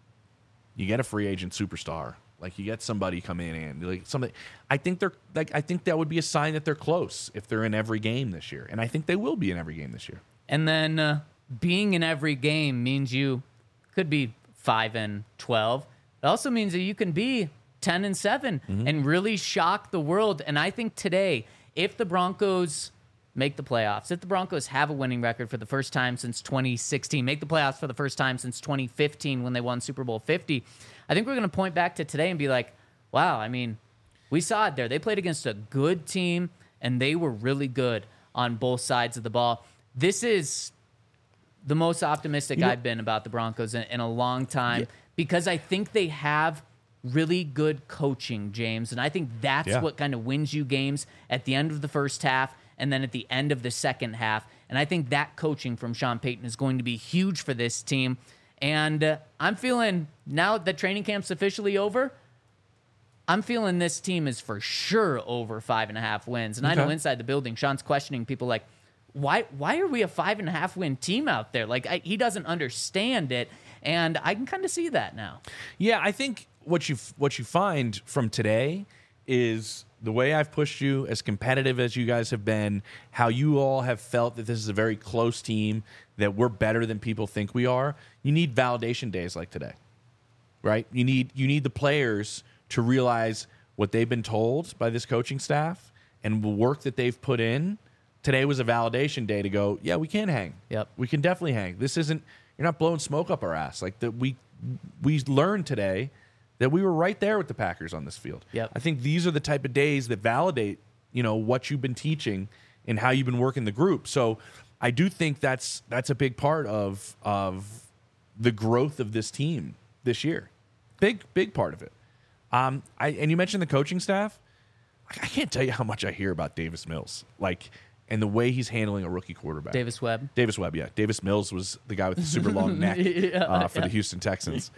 C: you get a free agent superstar. Like, you get somebody come in and like something. I think that would be a sign that they're close if they're in every game this year, and I think they will be in every game this year.
B: And then being in every game means you could be 5-12. It also means that you can be 10-7 and really shock the world. And I think today, if the Broncos make the playoffs, if the Broncos have a winning record for the first time since 2016, make the playoffs for the first time since 2015 when they won Super Bowl 50, I think we're going to point back to today and be like, wow, I mean, we saw it there. They played against a good team, and they were really good on both sides of the ball. This is the most optimistic I've been about the Broncos in a long time because I think they have really good coaching, James. And I think that's what kind of wins you games at the end of the first half and then at the end of the second half. And I think that coaching from Sean Payton is going to be huge for this team. And I'm feeling, now that training camp's officially over, I'm feeling this team is for sure over 5.5 wins. And I know inside the building, Sean's questioning people like, why are we a 5.5 win team out there? Like, he doesn't understand it, and I can kind of see that now.
C: Yeah, I think what you find from today is the way I've pushed you, as competitive as you guys have been, how you all have felt that this is a very close team, that we're better than people think we are. You need validation days like today, right? You need the players to realize what they've been told by this coaching staff and the work that they've put in. Today was a validation day to go, yeah, we can hang.
B: Yep.
C: We can definitely hang. This isn't, you're not blowing smoke up our ass. Like, that we learned today that we were right there with the Packers on this field.
B: Yep.
C: I think these are the type of days that validate, you know, what you've been teaching and how you've been working the group. So I do think that's a big part of the growth of this team this year. Big part of it. And you mentioned the coaching staff. I can't tell you how much I hear about Davis Mills. Like, and the way he's handling a rookie quarterback.
B: Davis Webb,
C: yeah. Davis Mills was the guy with the super long neck for the Houston Texans.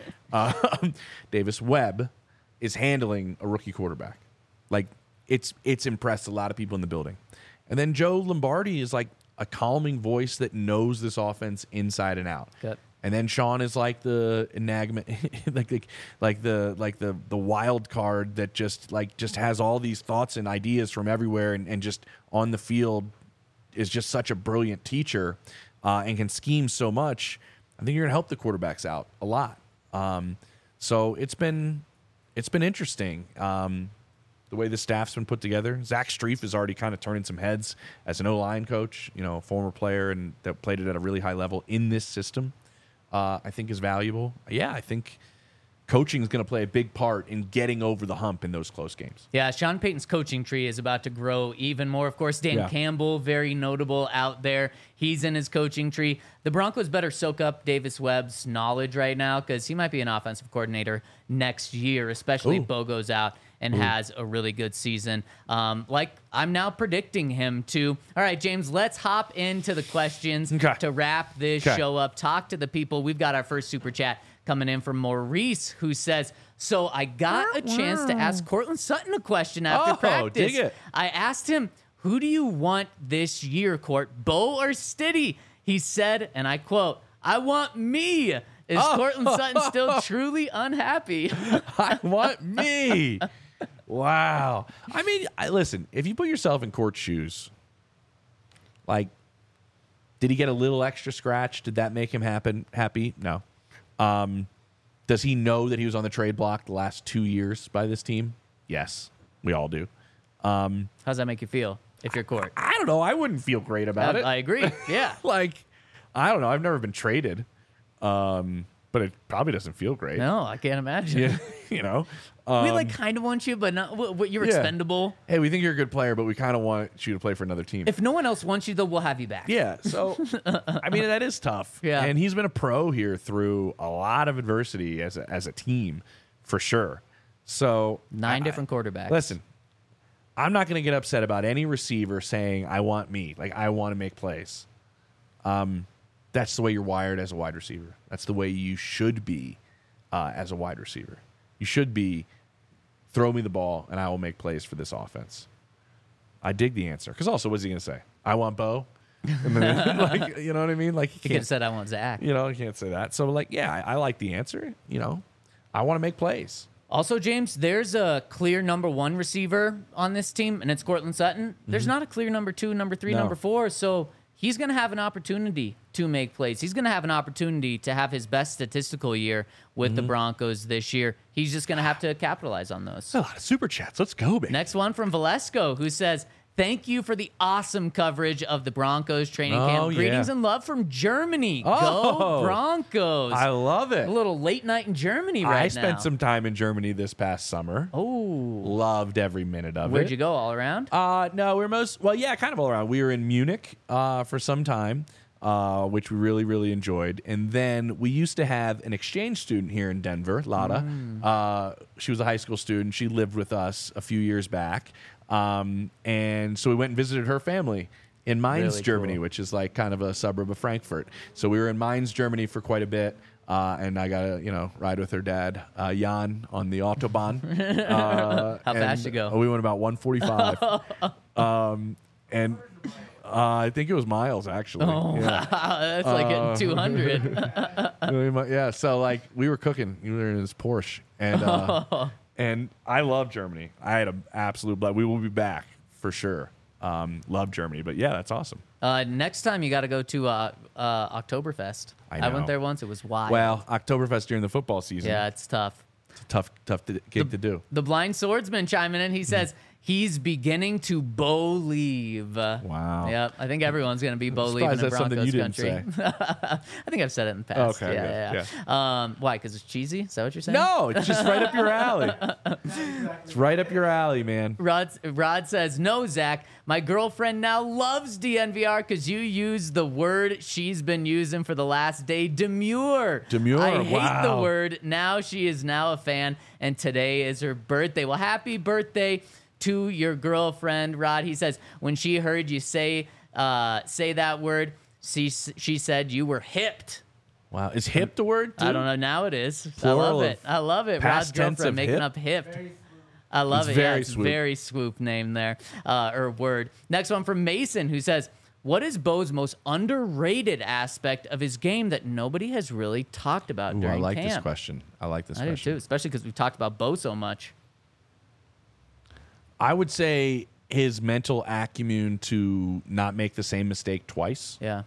C: Davis Webb is handling a rookie quarterback. Like, it's impressed a lot of people in the building. And then Joe Lombardi is like a calming voice that knows this offense inside and out.
B: Good.
C: And then Sean is like the enigma, like the wild card that just has all these thoughts and ideas from everywhere, and just on the field is just such a brilliant teacher, and can scheme so much. I think you're gonna help the quarterbacks out a lot. So it's been interesting. The way the staff's been put together. Zach Strief is already kind of turning some heads as an O-line coach, a former player and that played it at a really high level in this system. I think is valuable. Yeah, I think coaching is going to play a big part in getting over the hump in those close games.
B: Yeah, Sean Payton's coaching tree is about to grow even more. Of course, Dan Campbell, very notable out there. He's in his coaching tree. The Broncos better soak up Davis Webb's knowledge right now because he might be an offensive coordinator next year, especially if Bo goes out and has a really good season. Like I'm now predicting him to. All right, James, let's hop into the questions to wrap this show up. Talk to the people. We've got our first super chat coming in from Maurice, who says, so I got a chance to ask Courtland Sutton a question after practice.
C: Dig it.
B: I asked him, who do you want this year, Court, Bo or Stiddy? He said, and I quote, I want me. Is Courtland Sutton still truly unhappy?
C: I want me. Wow. I mean, listen, if you put yourself in Court's shoes, like, did he get a little extra scratch? Did that make him happy? No. Does he know that he was on the trade block the last 2 years by this team? Yes, we all do.
B: How does that make you feel if you're Court?
C: I don't know. I wouldn't feel great about it.
B: I agree. Yeah.
C: Like, I don't know. I've never been traded. But it probably doesn't feel great.
B: No, I can't imagine.
C: Yeah,
B: we kind of want you, but not. You're expendable.
C: Hey, we think you're a good player, but we kind of want you to play for another team.
B: If no one else wants you, though, we'll have you back.
C: Yeah. So, I mean, that is tough.
B: Yeah.
C: And he's been a pro here through a lot of adversity as a team, for sure. So
B: 9 different quarterbacks.
C: Listen, I'm not going to get upset about any receiver saying, I want me. Like, I want to make plays. That's the way you're wired as a wide receiver. That's the way you should be as a wide receiver. You should be, throw me the ball, and I will make plays for this offense. I dig the answer. Because also, what's he going to say? I want Bo? And then, like, you know what I mean? Like,
B: he could have said, I want Zach.
C: You can't say that. So, like, yeah, I like the answer. I want to make plays.
B: Also, James, there's a clear number 1 receiver on this team, and it's Courtland Sutton. There's not a clear number 2, number 3, number 4. So he's going to have an opportunity to make plays. He's going to have an opportunity to have his best statistical year with the Broncos this year. He's just going to have to capitalize on those.
C: A lot of super chats. Let's go, baby.
B: Next one from Valesco, who says, thank you for the awesome coverage of the Broncos training camp. Greetings and love from Germany. Go Broncos.
C: I love it.
B: A little late night in Germany right now.
C: I spent some time in Germany this past summer.
B: Oh.
C: Loved every minute of it.
B: Where'd you go? All around?
C: No, kind of all around. We were in Munich for some time, which we really, really enjoyed. And then we used to have an exchange student here in Denver, Lada. She was a high school student. She lived with us a few years back. And so we went and visited her family in Mainz, Germany, which is like kind of a suburb of Frankfurt. So we were in Mainz, Germany for quite a bit. And I got to, ride with her dad, Jan, on the Autobahn.
B: How fast you go?
C: We went about 145. And I think it was miles, actually.
B: Oh, yeah. That's like hitting 200.
C: Yeah, so like we were cooking. We were in this Porsche. And and I love Germany. I had an absolute blast. We will be back for sure. Love Germany. But yeah, that's awesome.
B: Next time you got to go to Oktoberfest. I went there once. It was wild.
C: Well, Oktoberfest during the football season.
B: Yeah, it's tough.
C: It's a tough gig to do.
B: The Blind Swordsman chiming in. He says he's beginning to Bo-leave.
C: Wow.
B: Yep. I think everyone's going to be Bo-leave in the Broncos country.
C: I
B: think I've said it in the past.
C: Okay.
B: Yeah. Why? Because it's cheesy? Is that what you're saying?
C: No, it's just right up your alley. It's right up your alley, man.
B: Rod says, no, Zach. My girlfriend now loves DNVR because you use the word she's been using for the last day, demure.
C: Demure,
B: I hate the word. Now she is now a fan, and today is her birthday. Well, happy birthday to your girlfriend, Rod. He says, when she heard you say that word, she said you were hipped.
C: Wow. Is hipped a word, too?
B: I don't know. Now it is.
C: Plural
B: I love it. Rod's girlfriend making up hipped. I love it.
C: Very
B: it's
C: swoop.
B: Very swoop name there, or word. Next one from Mason, who says, what is Bo's most underrated aspect of his game that nobody has really talked about
C: Ooh,
B: during
C: I like
B: camp?
C: this question. I like this
B: I do
C: question.
B: too, especially because we've talked about Bo so much.
C: I would say his mental acumen to not make the same mistake twice.
B: Yeah.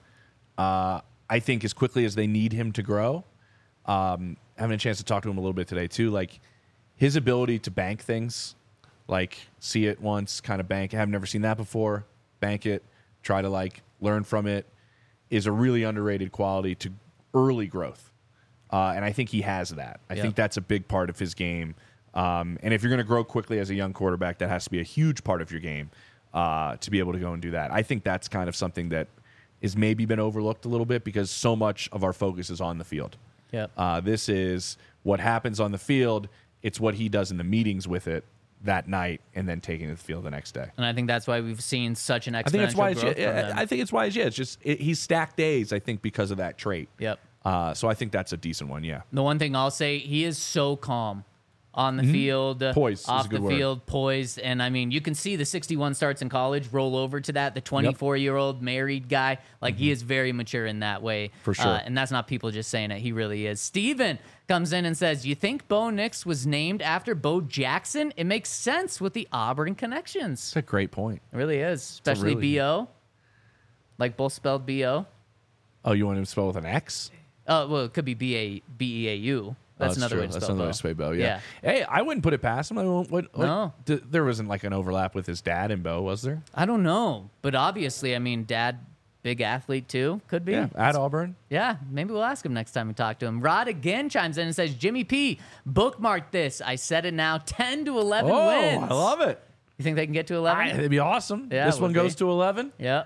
C: I think as quickly as they need him to grow, having a chance to talk to him a little bit today too, like his ability to bank things, like see it once, kind of bank. I've never seen that before. Bank it, try to like learn from it, is a really underrated quality to early growth. And I think he has that. I think that's a big part of his game. And if you're going to grow quickly as a young quarterback, that has to be a huge part of your game to be able to go and do that. I think that's kind of something that is maybe been overlooked a little bit because so much of our focus is on the field.
B: Yep.
C: This is what happens on the field. It's what he does in the meetings with it that night and then taking it to the field the next day.
B: And I think that's why we've seen such an exponential
C: I think that's why
B: growth from him.
C: I think it's why it's just he's stacked days, I think, because of that trait.
B: Yep.
C: So I think that's a decent one, yeah.
B: The one thing I'll say, he is so calm on the field,
C: Poised is
B: off
C: a good
B: the
C: word.
B: field, poised. And I mean, you can see the 61 starts in college roll over to that. The 24-year-old married guy, like he is very mature in that way.
C: For sure.
B: And that's not people just saying it. He really is. Steven comes in and says, you think Bo Nix was named after Bo Jackson? It makes sense with the Auburn connections.
C: That's a great point.
B: It really is, especially
C: really-
B: B-O. Like both spelled B-O.
C: Oh, you want him to spell with an X?
B: Well, it could be B-E-A-U. That's another way to
C: That's
B: spell
C: another way
B: Bo.
C: to spell Bo, yeah. Hey, I wouldn't put it past him. I mean,
B: No.
C: there wasn't like an overlap with his dad and Bo, was there?
B: I don't know, but obviously, I mean, Dad, big athlete too, could be.
C: Yeah, at Auburn.
B: Yeah, maybe we'll ask him next time we talk to him. Rod again chimes in and says, Jimmy P, bookmark this. I said it now, 10 to 11 wins.
C: I love it.
B: You think they can get to 11?
C: It'd be awesome.
B: Yeah,
C: This
B: it
C: one
B: would
C: goes
B: be.
C: to 11.
B: Yeah.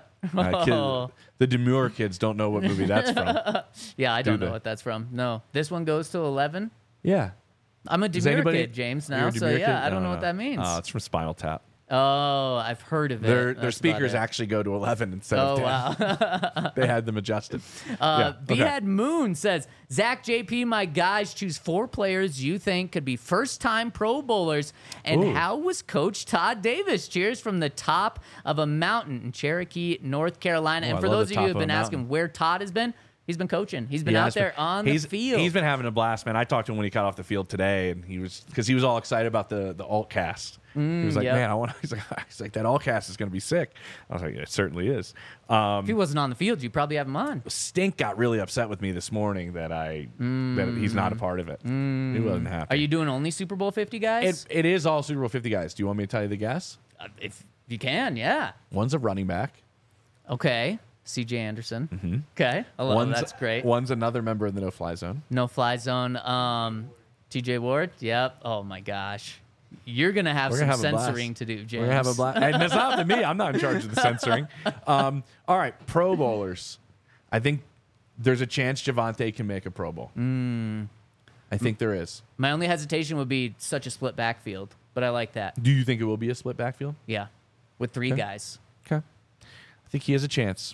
C: The Demure kids don't know what movie that's from.
B: Yeah, I don't
C: they?
B: know what that's from. No, this one goes to 11.
C: Yeah.
B: I'm a
C: Does
B: Demure
C: anybody-
B: kid, James,
C: You're
B: now,
C: a
B: so
C: Demure
B: yeah,
C: kid?
B: I don't know what that means.
C: Oh, it's from Spinal Tap.
B: Oh, I've heard of it.
C: Their
B: That's about
C: speakers
B: it.
C: actually go to 11 instead
B: Oh,
C: of 10.
B: wow.
C: They had them adjusted. Yeah, okay.
B: Bhead Moon says, Zach, JP, my guys, choose 4 players you think could be first-time Pro Bowlers. And
C: Ooh.
B: how was Coach Todd Davis? Cheers from the top of a mountain in Cherokee, North Carolina.
C: Oh,
B: and
C: I
B: for
C: love
B: those
C: the
B: of you
C: top
B: who have
C: of a
B: been asking
C: mountain.
B: where Todd has been, he's been coaching. He's been
C: Yeah,
B: out
C: it's
B: there
C: been-
B: on the field.
C: He's been having a blast, man. I talked to him when he got off the field today, and he was all excited about the alt cast. He was like,
B: yep.
C: man, I want. He's like, that alt cast is going to be sick. I was like, it certainly is.
B: If he wasn't on the field, you'd probably have him on.
C: Stink got really upset with me this morning that that he's not a part of it. He wasn't happy.
B: Are you doing only Super Bowl 50 guys?
C: It is all Super Bowl 50 guys. Do you want me to tell you the guess?
B: If you can, yeah.
C: One's a running back.
B: Okay. C.J. Anderson. Okay. I love it. That's great.
C: One's another member of the no-fly zone.
B: No fly zone. T.J. Ward. Yep. Oh my gosh, you're gonna have
C: We're
B: some
C: gonna have a blast.
B: censoring to do, James.
C: We're gonna have a blast. And it's not up to me. I'm not in charge of the censoring. All right, Pro Bowlers. I think there's a chance Javonte can make a Pro Bowl. I think there is.
B: My only hesitation would be such a split backfield, but I like that.
C: Do you think it will be a split backfield?
B: Yeah, with 3
C: Okay.
B: guys.
C: Okay. I think he has a chance.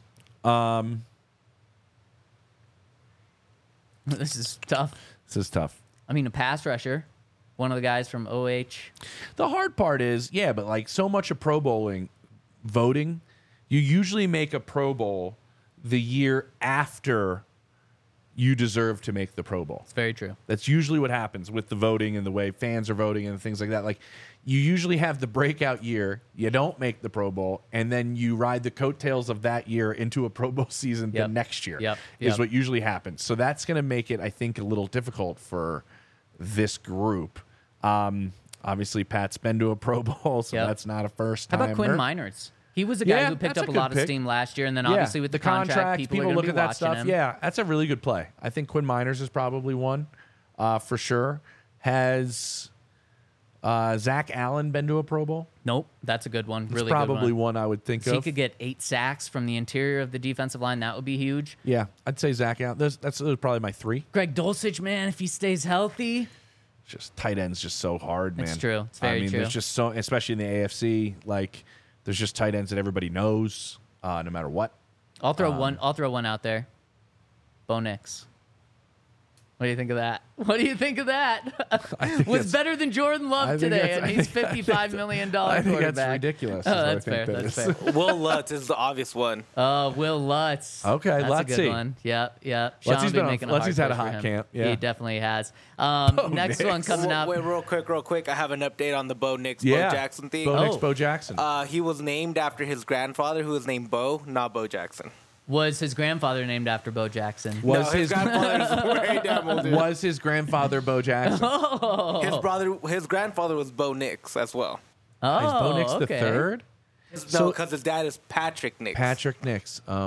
B: This is tough.
C: This is tough.
B: I mean, a pass rusher, one of the guys from OH.
C: The hard part is, yeah, but like so much of Pro Bowling voting, you usually make a Pro Bowl the year after you deserve to make the Pro Bowl.
B: It's very true.
C: That's usually what happens with the voting and the way fans are voting and things like that. Like, you usually have the breakout year, you don't make the Pro Bowl, and then you ride the coattails of that year into a Pro Bowl season the
B: Yep.
C: next year.
B: Yep.
C: Is
B: Yep.
C: what usually happens. So that's going to make it, I think, a little difficult for this group. Obviously, Pat's been to a Pro Bowl, so
B: Yep.
C: that's not a first
B: How
C: time.
B: about Quinn Miners? He was a guy
C: Yeah,
B: who picked
C: that's
B: up
C: a
B: a
C: good
B: lot of
C: pick.
B: steam last year, and then obviously with the contract, people are
C: look
B: gonna
C: at
B: be
C: that
B: watching
C: stuff.
B: him.
C: Yeah, that's a really good play. I think Quinn Miners is probably one for sure. Has Zach Allen been to a Pro Bowl?
B: Nope, that's a good one.
C: That's
B: Really
C: probably
B: good one.
C: one I would think
B: If he
C: of.
B: could get 8 sacks from the interior of the defensive line, that would be huge.
C: Yeah, I'd say Zach Allen. That's probably my 3.
B: Greg Dulcich, man, if he stays healthy.
C: Just tight end's just so hard, man.
B: It's true. It's very
C: I mean,
B: true.
C: there's just so, especially in the AFC, like there's just tight ends that everybody knows, no matter what.
B: I'll throw one out there. Bo Nix. What do you think of that? What do you think of that? Was better than Jordan Love today, and he's $55 million quarterback.
C: I think that's ridiculous.
B: Oh, that's fair. That's fair.
D: Will Lutz is the obvious one.
B: Oh, Will Lutz.
C: Okay,
B: that's
C: let's
B: a good
C: see.
B: one. Yep.
C: Lutz's been on-
B: making
C: Lutz's had a
B: hard push
C: hot
B: for him.
C: camp, yeah.
B: He definitely has. Next one
C: Nix.
B: coming up.
D: Wait, real quick. I have an update on the Bo Nix,
C: Yeah.
D: Bo Jackson thing.
C: Bo Nix,
B: Oh.
C: Bo Jackson.
D: He was named after his grandfather, who was named Bo, not Bo Jackson.
B: Was his grandfather named after Bo Jackson?
C: Was
D: his grandfather's way damn old. Dude.
C: Was his grandfather Bo Jackson?
D: His grandfather was Bo Nix as well.
B: Oh,
C: Is Bo Nix the
B: okay.
C: third?
D: No, because his dad is Patrick Nix.
C: Patrick Nix. Oh.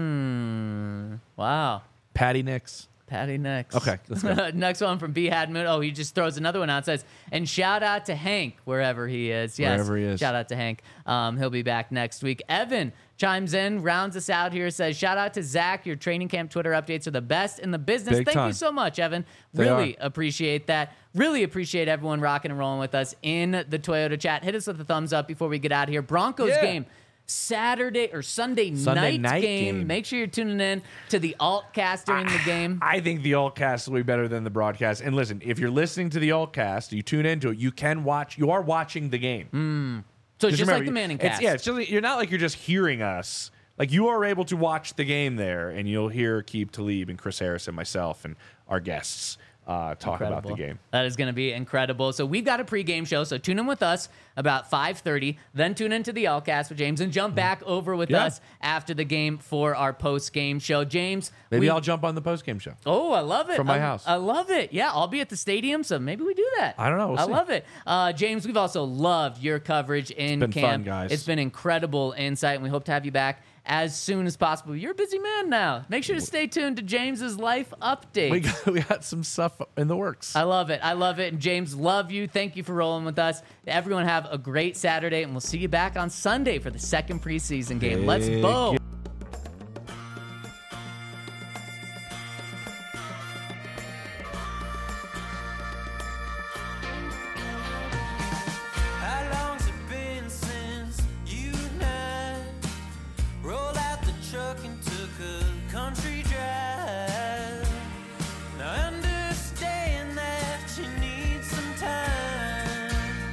B: Wow.
C: Patty Nix.
B: Patty Nix.
C: Okay, let's go.
B: Next one from B. Hadmoon. Oh, he just throws another one out. Says, and shout out to Hank wherever he is. Yes,
C: Wherever he is.
B: Shout out to Hank. He'll be back next week. Evan chimes in, rounds us out here. Says, shout out to Zach. Your training camp Twitter updates are the best in the business.
C: Big
B: Thank
C: time.
B: you so much, Evan.
C: They
B: Really
C: are.
B: appreciate that. Really appreciate everyone rocking and rolling with us in the Toyota chat. Hit us with a thumbs up before we get out of here. Broncos
C: Yeah.
B: game. Sunday night game. Make sure you're tuning in to the Altcast during the game.
C: I think the Altcast will be better than the broadcast. And listen, if you're listening to the Altcast, you tune into it, you are watching the game.
B: So it's just
C: remember,
B: like the Manning cast.
C: It's just, you're not like you're just hearing us. Like, you are able to watch the game there, and you'll hear Keeb Talib and Chris Harris and myself and our guests talk about the game.
B: That is going to be incredible. So we've got a pregame show. So tune in with us about 5:30. Then tune into the Altcast with James and jump back over with
C: Yeah.
B: us after the game for our post-game show. James,
C: Maybe I'll jump on the postgame show.
B: Oh, I love it.
C: From my house.
B: I love it. Yeah, I'll be at the stadium, so maybe we do that.
C: I don't know. We'll
B: I
C: see.
B: love it. James, we've also loved your coverage in
C: been
B: camp.
C: fun, guys.
B: It's been incredible insight, and we hope to have you back as soon as possible. You're a busy man now. Make sure to stay tuned to James's life update.
C: We got some stuff in the works.
B: I love it. I love it. And James, love you. Thank you for rolling with us. Everyone have a great Saturday, and we'll see you back on Sunday for the second preseason game. Let's
C: Big
B: go.
A: How long's it been since you and I rolled out the truck and took a country drive? Now I understand that you need some time.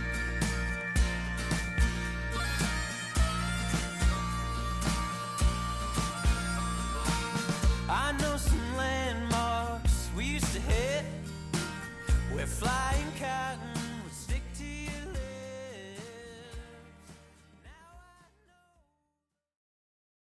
A: I know some landmarks we used to hit. We're flying cotton